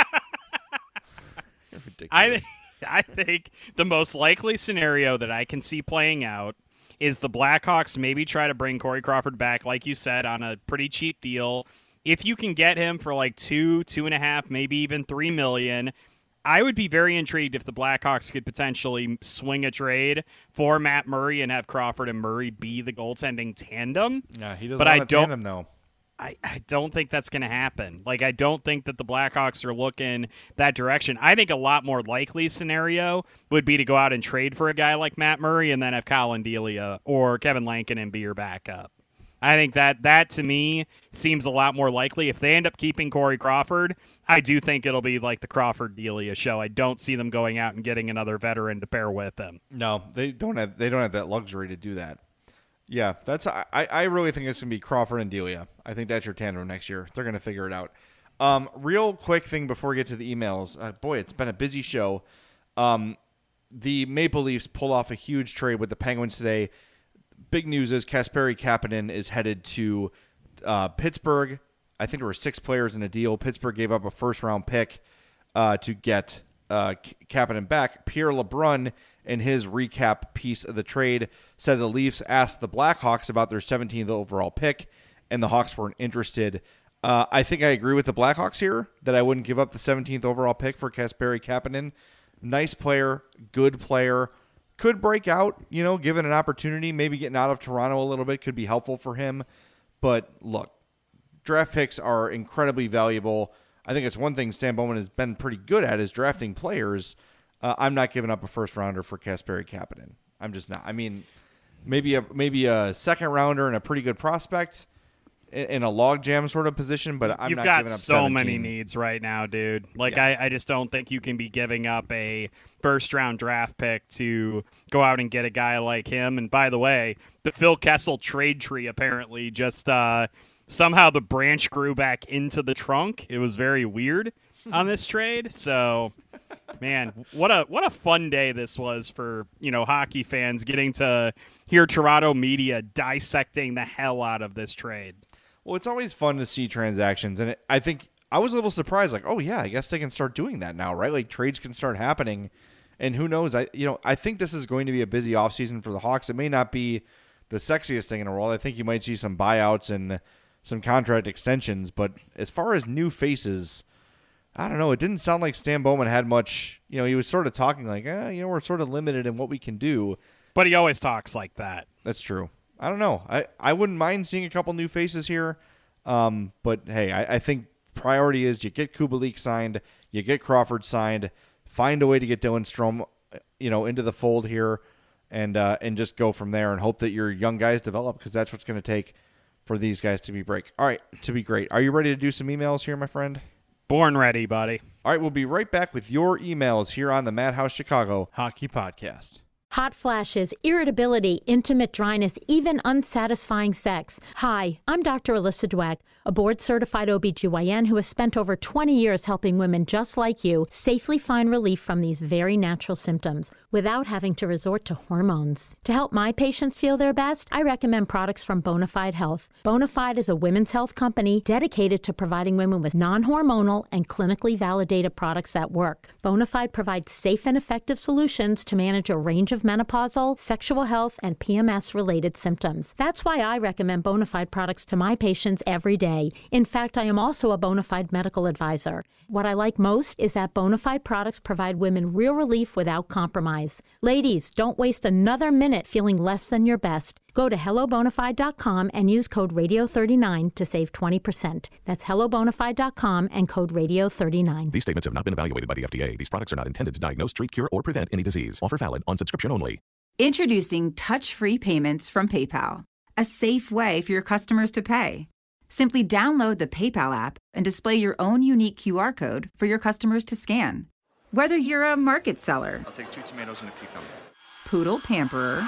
You're ridiculous.
I, th- I think the most likely scenario that I can see playing out is the Blackhawks maybe try to bring Corey Crawford back, like you said, on a pretty cheap deal. If you can get him for like two, two and a half, maybe even three million, I would be very intrigued if the Blackhawks could potentially swing a trade for Matt Murray and have Crawford and Murray be the goaltending tandem.
Yeah, he doesn't
but
want
I
a
don't,
tandem, though.
I, I don't think that's going to happen. Like, I don't think that the Blackhawks are looking that direction. I think a lot more likely scenario would be to go out and trade for a guy like Matt Murray and then have Colin Delia or Kevin Lankinen be your backup. I think that that, to me, seems a lot more likely. If they end up keeping Corey Crawford, I do think it'll be like the Crawford-Delia show. I don't see them going out and getting another veteran to pair with him.
No, they don't have they don't have that luxury to do that. Yeah, that's I, I really think it's going to be Crawford and Delia. I think that's your tandem next year. They're going to figure it out. Um, real quick thing before we get to the emails. Uh, boy, it's been a busy show. Um, the Maple Leafs pull off a huge trade with the Penguins today. Big news is Kasperi Kapanen is headed to uh, Pittsburgh. I think there were six players in a deal. Pittsburgh gave up a first-round pick uh, to get uh, Kapanen back. Pierre LeBrun, in his recap piece of the trade, said the Leafs asked the Blackhawks about their seventeenth overall pick, and the Hawks weren't interested. Uh, I think I agree with the Blackhawks here that I wouldn't give up the seventeenth overall pick for Kasperi Kapanen. Nice player, good player. Could break out, you know, given an opportunity. Maybe getting out of Toronto a little bit could be helpful for him. But look, draft picks are incredibly valuable. I think it's one thing Stan Bowman has been pretty good at is drafting players. Uh, I'm not giving up a first rounder for Kasperi Kapanen. I'm just not. I mean, maybe a maybe a second rounder and a pretty good prospect in, in a logjam sort of position, but I'm
You've
not
got
giving up
so
seventeen.
many needs right now, dude. Like,
Yeah.
I, I just don't think you can be giving up a first-round draft pick to go out and get a guy like him. And by the way, the Phil Kessel trade tree apparently just uh, somehow the branch grew back into the trunk. It was very weird on this trade. So, man, what a what a fun day this was for, you know, hockey fans getting to hear Toronto media dissecting the hell out of this trade.
Well, it's always fun to see transactions, and it, I think I was a little surprised. Like, oh yeah, I guess they can start doing that now, right? Like trades can start happening, and who knows? I you know I think this is going to be a busy offseason for the Hawks. It may not be the sexiest thing in the world. I think you might see some buyouts and some contract extensions, but as far as new faces, I don't know. It didn't sound like Stan Bowman had much. You know, he was sort of talking like, eh, you know, we're sort of limited in what we can do.
But he always talks like that.
That's true. I don't know. I, I wouldn't mind seeing a couple new faces here. Um, but, hey, I, I think priority is you get Kubalik signed, you get Crawford signed, find a way to get Dylan Strome, you know, into the fold here, and uh, and just go from there and hope that your young guys develop, because that's what's going to take for these guys to be break. All right, to be great. Are you ready to do some emails here, my friend?
Born ready, buddy.
All right, we'll be right back with your emails here on the Madhouse Chicago Hockey Podcast.
Hot flashes, irritability, intimate dryness, even unsatisfying sex. Hi, I'm Doctor Alyssa Dweck, a board-certified O B G Y N who has spent over twenty years helping women just like you safely find relief from these very natural symptoms without having to resort to hormones. To help my patients feel their best, I recommend products from Bonafide Health. Bonafide is a women's health company dedicated to providing women with non-hormonal and clinically validated products that work. Bonafide provides safe and effective solutions to manage a range of menopausal, sexual health, and P M S-related symptoms. That's why I recommend Bonafide products to my patients every day. In fact, I am also a Bonafide medical advisor. What I like most is that Bonafide products provide women real relief without compromise. Ladies, don't waste another minute feeling less than your best. Go to hello bonafide dot com and use code radio thirty-nine to save twenty percent. That's hello bonafide dot com and code radio thirty-nine.
These statements have not been evaluated by the F D A. These products are not intended to diagnose, treat, cure, or prevent any disease. Offer valid on subscription only.
Introducing touch-free payments from PayPal, a safe way for your customers to pay. Simply download the PayPal app and display your own unique Q R code for your customers to scan. Whether you're a market seller,
I'll take two tomatoes and a cucumber,
poodle pamperer,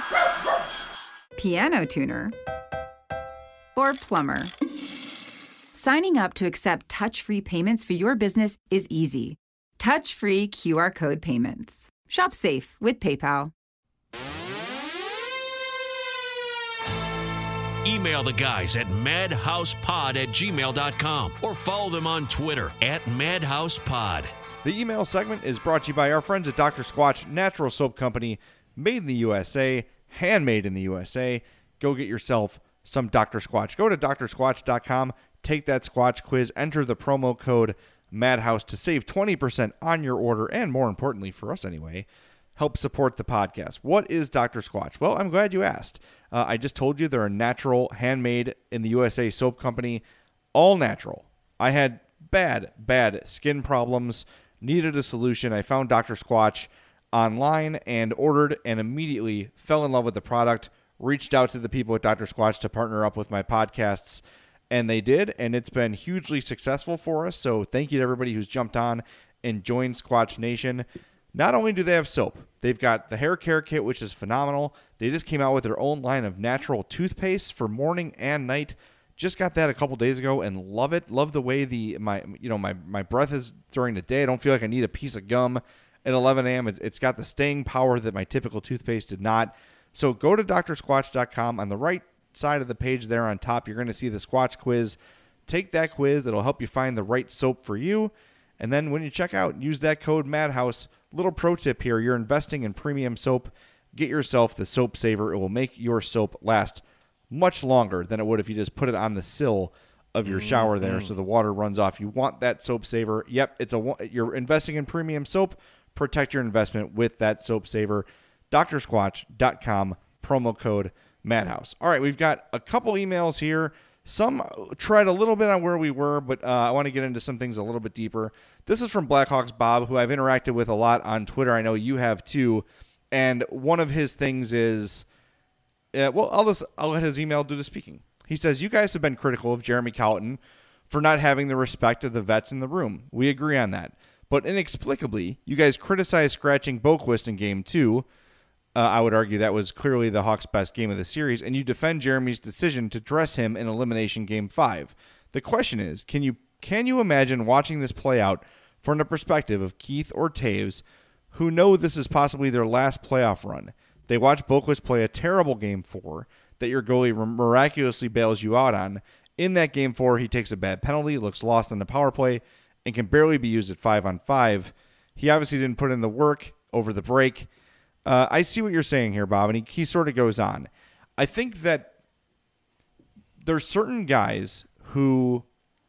piano tuner, or plumber, signing up to accept touch-free payments for your business is easy. touch-free Q R code payments. Shop safe with PayPal.
Email the guys at madhousepod at gmail dot com or follow them on Twitter at madhousepod.
The email segment is brought to you by our friends at Doctor Squatch Natural Soap Company, made in the U S A, handmade in the U S A. Go get yourself some Doctor Squatch. Go to D R squatch dot com, take that Squatch quiz, enter the promo code MADHOUSE to save twenty percent on your order, and more importantly, for us anyway, help support the podcast. What is Doctor Squatch? Well, I'm glad you asked. Uh, I just told you they're a natural, handmade in the U S A soap company, all natural. I had bad, bad skin problems, needed a solution. I found Doctor Squatch online and ordered and immediately fell in love with the product, reached out to the people at Doctor Squatch to partner up with my podcasts, and they did, and it's been hugely successful for us. So thank you to everybody who's jumped on and joined Squatch Nation. Not only do they have soap, they've got the hair care kit, which is phenomenal. They just came out with their own line of natural toothpaste for morning and night. Just got that a couple days ago and love it. Love the way the my you know my my breath is during the day. I don't feel like I need a piece of gum at eleven a.m. It, it's got the staying power that my typical toothpaste did not. So go to D R squatch dot com. On the right side of the page there on top, you're going to see the Squatch quiz. Take that quiz. It'll help you find the right soap for you. And then when you check out, use that code MADHOUSE. Little pro tip here. You're investing in premium soap. Get yourself the Soap Saver. It will make your soap last much longer than it would if you just put it on the sill of your shower there so the water runs off. You want that Soap Saver. Yep, it's a you're investing in premium soap. Protect your investment with that Soap Saver. D R squatch dot com, promo code MADHOUSE. All right, we've got a couple emails here. Some tread a little bit on where we were, but uh, I want to get into some things a little bit deeper. This is from Blackhawks Bob, who I've interacted with a lot on Twitter. I know you have too. And one of his things is, uh, well, I'll, just, I'll let his email do the speaking. He says, you guys have been critical of Jeremy Colliton for not having the respect of the vets in the room. We agree on that. But inexplicably, you guys criticize scratching Boqvist in game two. Uh, I would argue that was clearly the Hawks' best game of the series, and you defend Jeremy's decision to dress him in elimination game five. The question is, can you can you imagine watching this play out from the perspective of Keith or Taves, who know this is possibly their last playoff run? They watch Boqvist play a terrible game four that your goalie miraculously bails you out on. In that game four, he takes a bad penalty, looks lost on the power play, and can barely be used at five on five. He obviously didn't put in the work over the break. Uh, I see what you're saying here, Bob, and he, he sort of goes on. I think that there's certain guys who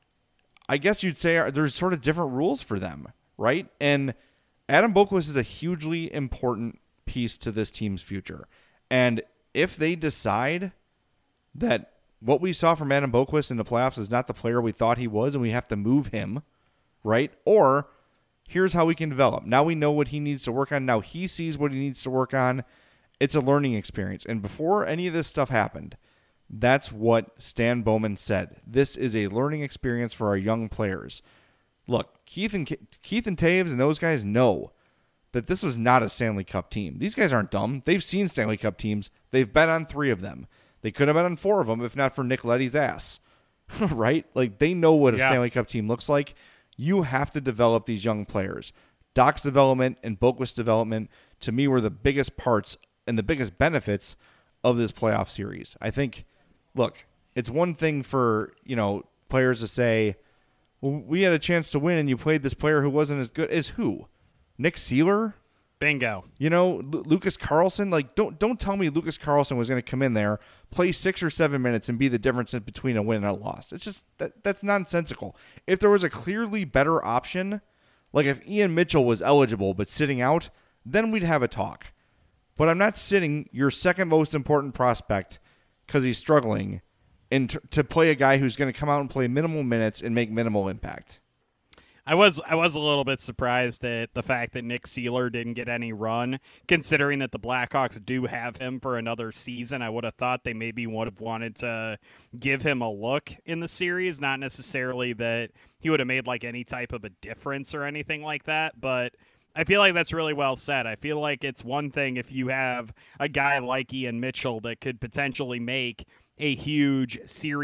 I guess you'd say are, there's sort of different rules for them, right? And Adam Boqvist is a hugely important piece to this team's future. And if they decide that what we saw from Adam Boqvist in the playoffs is not the player we thought he was and we have to move him, right? Or here's how we can develop. Now we know what he needs to work on. Now he sees what he needs to work on. It's a learning experience. And before any of this stuff happened, that's what Stan Bowman said. This is a learning experience for our young players. Look, Keith and Keith and Taves and those guys know that this was not a Stanley Cup team. These guys aren't dumb. They've seen Stanley Cup teams. They've bet on three of them. They could have bet on four of them if not for Nick Leddy's ass. Right? Like, they know what a yeah. Stanley Cup team looks like. You have to develop these young players. Doc's development and Boqvist's development, to me, were the biggest parts and the biggest benefits of this playoff series. I think, look, it's one thing for, you know, players to say, well, we had a chance to win and you played this player who wasn't as good as who? Nick Seeler?
Bingo.
You know, L- Lucas Carlson? Like, don't don't tell me Lucas Carlson was going to come in there, play six or seven minutes, and be the difference between a win and a loss. It's just, that that's nonsensical. If there was a clearly better option, like if Ian Mitchell was eligible but sitting out, then we'd have a talk. But I'm not sitting your second most important prospect because he's struggling and t- to play a guy who's going to come out and play minimal minutes and make minimal impact.
I was I was a little bit surprised at the fact that Nick Seeler didn't get any run, considering that the Blackhawks do have him for another season. I would have thought they maybe would have wanted to give him a look in the series, not necessarily that he would have made like any type of a difference or anything like that, but I feel like that's really well said. I feel like it's one thing if you have a guy like Ian Mitchell that could potentially make a huge series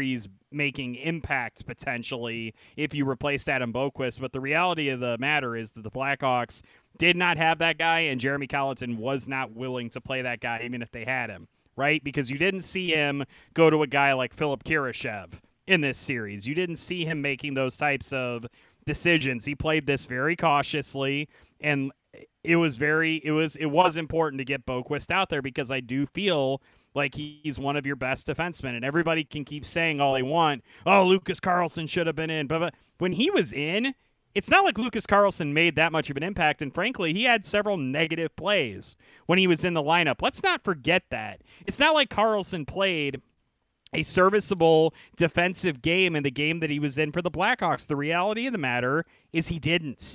making impact potentially if you replaced Adam Boquist. But the reality of the matter is that the Blackhawks did not have that guy, and Jeremy Colliton was not willing to play that guy even if they had him, right? Because you didn't see him go to a guy like Philip Kurashev in this series. You didn't see him making those types of decisions. He played this very cautiously, and it was very it was it was important to get Boquist out there, because I do feel like he's one of your best defensemen, and everybody can keep saying all they want. Oh, Lucas Carlson should have been in, but, but when he was in, it's not like Lucas Carlson made that much of an impact, and frankly, he had several negative plays when he was in the lineup. Let's not forget that. It's not like Carlson played a serviceable defensive game in the game that he was in for the Blackhawks. The reality of the matter is he didn't.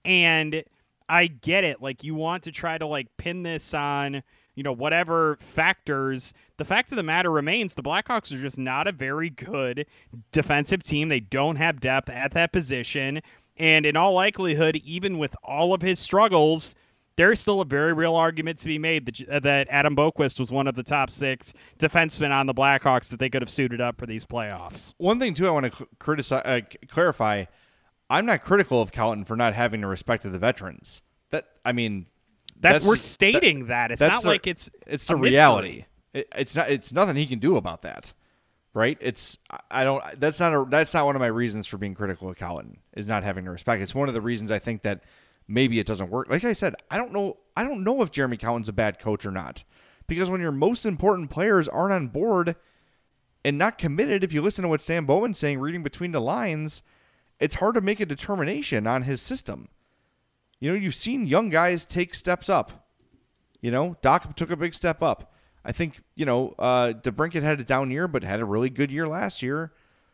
And I get it. Like, you want to try to, like, pin this on, you know, whatever factors. The fact of the matter remains the Blackhawks are just not a very good defensive team. They don't have depth at that position. And in all likelihood, even with all of his struggles, there's still a very real argument to be made that, that Adam Boquist was one of the top six defensemen on the Blackhawks that they could have suited up for these playoffs.
One thing, too, I want to criticize, uh, clarify, I'm not critical of Colliton for not having the respect of the veterans. That I mean,
that
that's
we're stating that, that. It's not
the,
like it's
it's the reality. It, it's not. It's nothing he can do about that, right? It's I don't. That's not a. That's not one of my reasons for being critical of Colliton, is not having the respect. It's one of the reasons I think that maybe it doesn't work. Like I said, I don't know. I don't know if Jeremy Colliton's a bad coach or not, because when your most important players aren't on board and not committed, if you listen to what Stan Bowman's saying, reading between the lines, it's hard to make a determination on his system. You know, you've seen young guys take steps up. You know, Doc took a big step up. I think, you know, uh, DeBrincat had a down year, but had a really good year last year.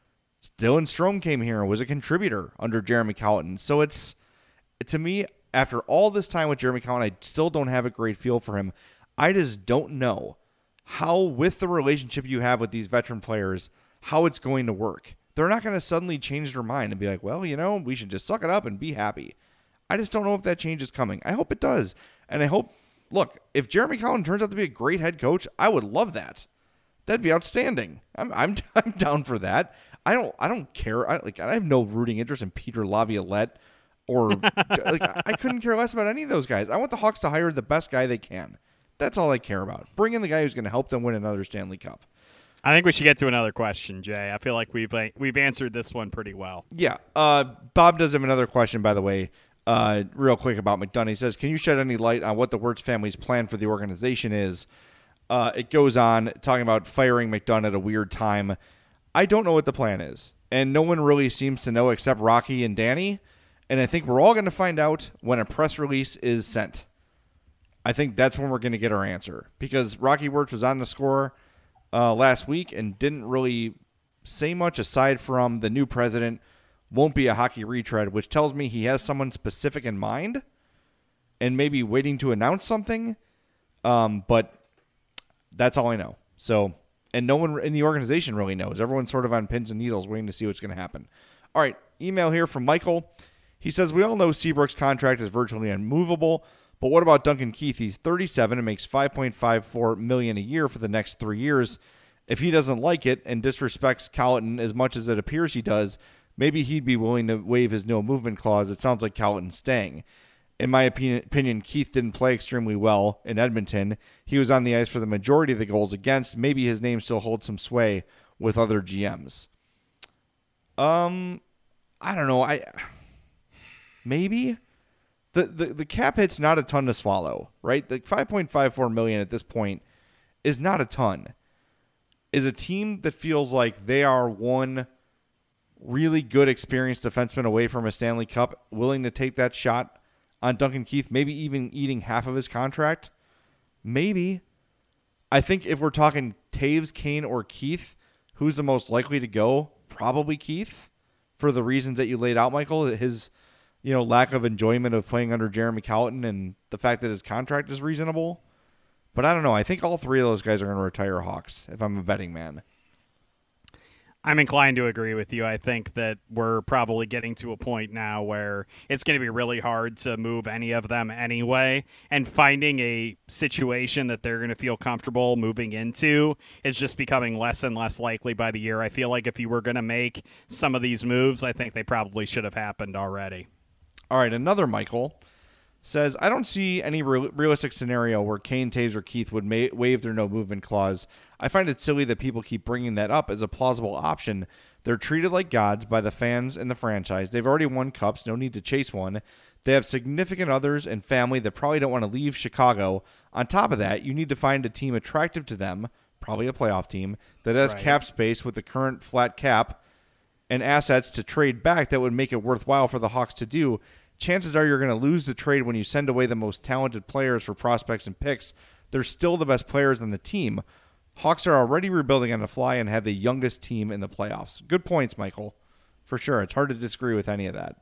Dylan Strome came here and was a contributor under Jeremy Colliton. So it's, to me, after all this time with Jeremy Colliton, I still don't have a great feel for him. I just don't know how, with the relationship you have with these veteran players, how it's going to work. They're not going to suddenly change their mind and be like, well, you know, we should just suck it up and be happy. I just don't know if that change is coming. I hope it does. And I hope, look, if Jeremy Colliton turns out to be a great head coach, I would love that. That'd be outstanding. I'm I'm I'm down for that. I don't I don't care. I like I have no rooting interest in Peter Laviolette or like I couldn't care less about any of those guys. I want the Hawks to hire the best guy they can. That's all I care about. Bring in the guy who's going to help them win another Stanley Cup.
I think we should get to another question, Jay. I feel like we've like, we've answered this one pretty well.
Yeah. Uh, Bob does have another question, by the way, uh, real quick about McDonough. He says, can you shed any light on what the Wirtz family's plan for the organization is? Uh, it goes on talking about firing McDonough at a weird time. I don't know what the plan is, and no one really seems to know except Rocky and Danny, and I think we're all going to find out when a press release is sent. I think that's when we're going to get our answer, because Rocky Wirtz was on the score Uh, last week and didn't really say much aside from the new president won't be a hockey retread, which tells me he has someone specific in mind and maybe waiting to announce something. Um, but that's all I know. So, and no one in the organization really knows. Everyone's sort of on pins and needles waiting to see what's going to happen. All right. Email here from Michael. He says, we all know Seabrook's contract is virtually unmovable. But what about Duncan Keith? He's thirty-seven and makes five point five four million dollars a year for the next three years. If he doesn't like it and disrespects Colliton as much as it appears he does, maybe he'd be willing to waive his no movement clause. It sounds like Colliton's staying. In my opinion, Keith didn't play extremely well in Edmonton. He was on the ice for the majority of the goals against. Maybe his name still holds some sway with other G Ms. Um, I don't know. I maybe. The, the the cap hit's not a ton to swallow, right? The five point five four million dollars at this point is not a ton. Is a team that feels like they are one really good, experienced defenseman away from a Stanley Cup willing to take that shot on Duncan Keith, maybe even eating half of his contract? Maybe. I think if we're talking Taves, Kane, or Keith, who's the most likely to go? Probably Keith, for the reasons that you laid out, Michael. His you know, lack of enjoyment of playing under Jeremy Colliton and the fact that his contract is reasonable. But I don't know. I think all three of those guys are going to retire Hawks if I'm a betting man.
I'm inclined to agree with you. I think that we're probably getting to a point now where it's going to be really hard to move any of them anyway, and finding a situation that they're going to feel comfortable moving into is just becoming less and less likely by the year. I feel like if you were going to make some of these moves, I think they probably should have happened already.
All right, another Michael says, I don't see any real- realistic scenario where Kane, Taves, or Keith would ma- waive their no-movement clause. I find it silly that people keep bringing that up as a plausible option. They're treated like gods by the fans and the franchise. They've already won cups, no need to chase one. They have significant others and family that probably don't want to leave Chicago. On top of that, you need to find a team attractive to them, probably a playoff team, that has
Right.
cap space with the current flat cap and assets to trade back that would make it worthwhile for the Hawks to do. Chances are you're going to lose the trade when you send away the most talented players for prospects and picks. They're still the best players on the team. Hawks are already rebuilding on the fly and have the youngest team in the playoffs. Good points, Michael. For sure. It's hard to disagree with any of that.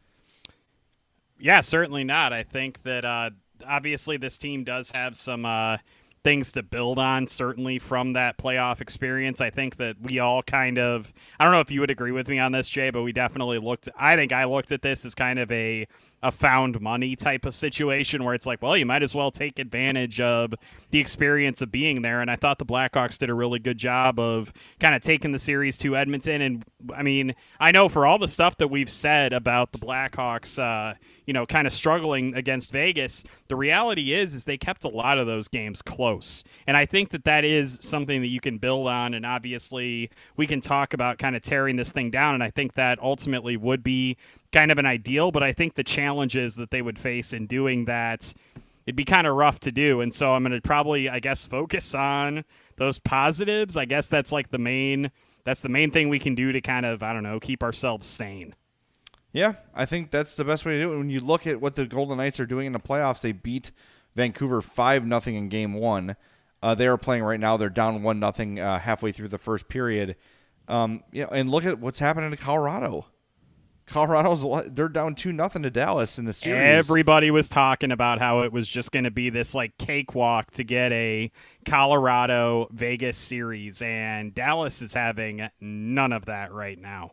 Yeah, certainly not. I think that uh, obviously this team does have some uh, things to build on, certainly from that playoff experience. I think that we all kind of, I don't know if you would agree with me on this, Jay, but we definitely looked, I think I looked at this as kind of a, a found money type of situation where it's like, well, you might as well take advantage of the experience of being there. And I thought the Blackhawks did a really good job of kind of taking the series to Edmonton. And I mean, I know for all the stuff that we've said about the Blackhawks, uh, you know, kind of struggling against Vegas, the reality is, is they kept a lot of those games close. And I think that that is something that you can build on. And obviously we can talk about kind of tearing this thing down. And I think that ultimately would be kind of an ideal, but I think the challenges that they would face in doing that, it'd be kind of rough to do. And so I'm going to probably, I guess, focus on those positives. I guess that's like the main, that's the main thing we can do to kind of, I don't know, keep ourselves sane.
Yeah, I think that's the best way to do it. When you look at what the Golden Knights are doing in the playoffs, they beat Vancouver five nothing in game one. Uh, they are playing right now. They're down one nothing uh, halfway through the first period. Um, you know, and look at what's happening to Colorado. Colorado's they're down two nothing to Dallas in the series.
Everybody was talking about how it was just going to be this like cakewalk to get a Colorado Vegas series, and Dallas is having none of that right now.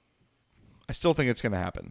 I still think it's going to happen.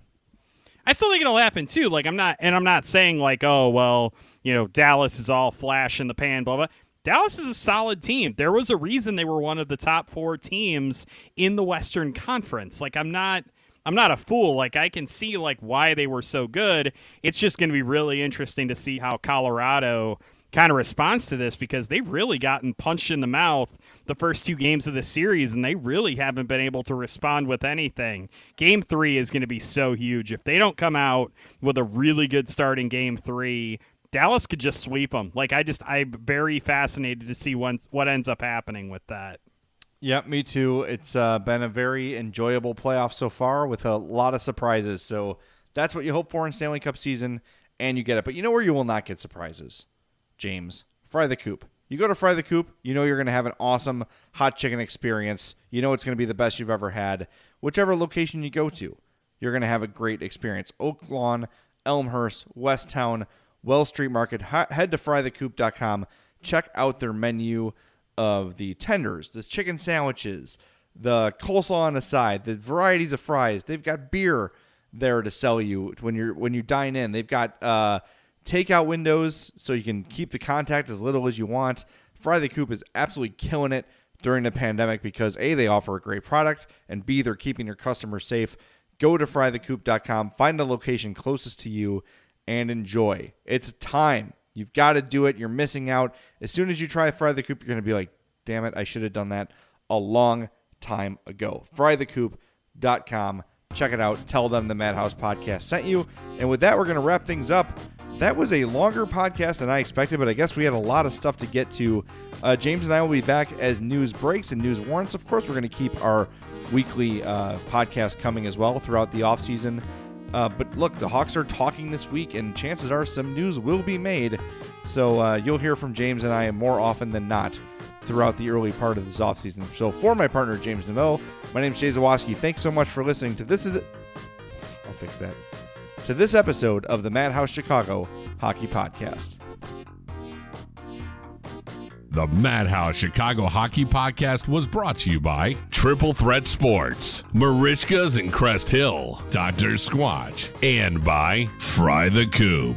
I still think it'll happen too. Like I'm not, and I'm not saying like, oh well, you know, Dallas is all flash in the pan, blah blah. Dallas is a solid team. There was a reason they were one of the top four teams in the Western Conference. Like I'm not. I'm not a fool. Like I can see like why they were so good. It's just going to be really interesting to see how Colorado kind of responds to this, because they've really gotten punched in the mouth the first two games of the series, and they really haven't been able to respond with anything. Game three is going to be so huge. If they don't come out with a really good start in game three, Dallas could just sweep them. Like I just, I'm very fascinated to see once what ends up happening with that.
Yep, me too. It's uh, been a very enjoyable playoff so far with a lot of surprises. So that's what you hope for in Stanley Cup season, and you get it. But you know where you will not get surprises, James? Fry the Coop. You go to Fry the Coop, you know you're going to have an awesome hot chicken experience. You know it's going to be the best you've ever had. Whichever location you go to, you're going to have a great experience. Oak Lawn, Elmhurst, Westtown, Wells Street Market. Head to fry the coop dot com. Check out their menu of the tenders, the chicken sandwiches, the coleslaw on the side, the varieties of fries. They've got beer there to sell you when you're when you dine in. They've got uh, takeout windows so you can keep the contact as little as you want. Fry the Coop is absolutely killing it during the pandemic because A, they offer a great product, and B, they're keeping your customers safe. Go to fry the coop dot com, find the location closest to you, and enjoy. It's time. You've got to do it. You're missing out. As soon as you try Fry the Coop, you're going to be like, damn it, I should have done that a long time ago. fry the coop dot com. Check it out. Tell them the Madhouse Podcast sent you. And with that, we're going to wrap things up. That was a longer podcast than I expected, but I guess we had a lot of stuff to get to. Uh, James and I will be back as news breaks and news warrants. Of course, we're going to keep our weekly uh, podcast coming as well throughout the offseason. Uh, but look, the Hawks are talking this week, and chances are some news will be made. So uh, you'll hear from James and I more often than not throughout the early part of this offseason. So for my partner, James Nemo, my name is Jay Zawoski. Thanks so much for listening to this. Is I'll fix that. To this episode of the Madhouse Chicago Hockey Podcast.
The Madhouse Chicago Hockey Podcast was brought to you by Triple Threat Sports, Marishka's in Crest Hill, Doctor Squatch, and by Fry the Coop.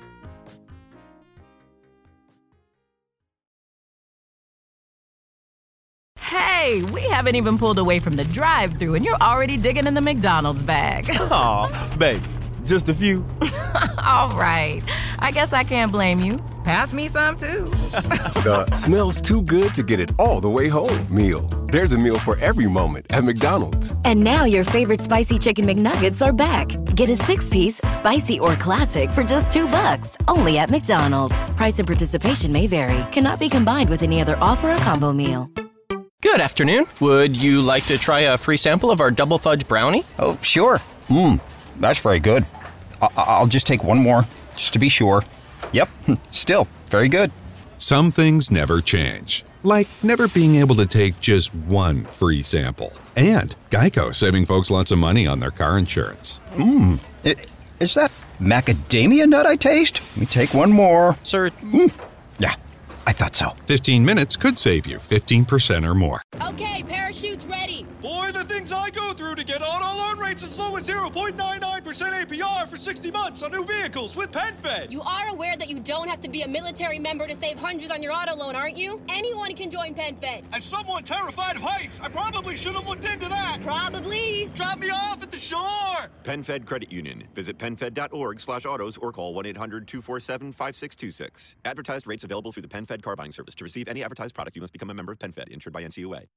Hey, we haven't even pulled away from the drive-thru and you're already digging in the McDonald's bag.
Aw, babe, just a few.
All right, I guess I can't blame you. Pass me some, too.
The smells too good to get it all the way home meal. There's a meal for every moment at McDonald's.
And now your favorite spicy chicken McNuggets are back. Get a six-piece, spicy or classic for just two bucks, only at McDonald's. Price and participation may vary. Cannot be combined with any other offer or combo meal.
Good afternoon. Would you like to try a free sample of our double fudge brownie?
Oh, sure. Mmm, that's very good. I- I'll just take one more, just to be sure. Yep, still very good.
Some things never change, like never being able to take just one free sample. And Geico saving folks lots of money on their car insurance.
Mmm, is that macadamia nut I taste? Let me take one more.
Sir,
mm. Yeah, I thought so.
fifteen minutes could save you fifteen percent or more.
Okay, parachute's ready.
Boy, the things I go through to get auto loan rates as low as zero point nine nine percent A P R for sixty months on new vehicles with PenFed.
You are aware that you don't have to be a military member to save hundreds on your auto loan, aren't you? Anyone can join PenFed.
As someone terrified of heights, I probably should have looked into that.
Probably.
Drop me off at the shore.
PenFed Credit Union. Visit PenFed.org slash autos or call one eight hundred two four seven five six two six. Advertised rates available through the PenFed car buying service. To receive any advertised product, you must become a member of PenFed, insured by N C U A.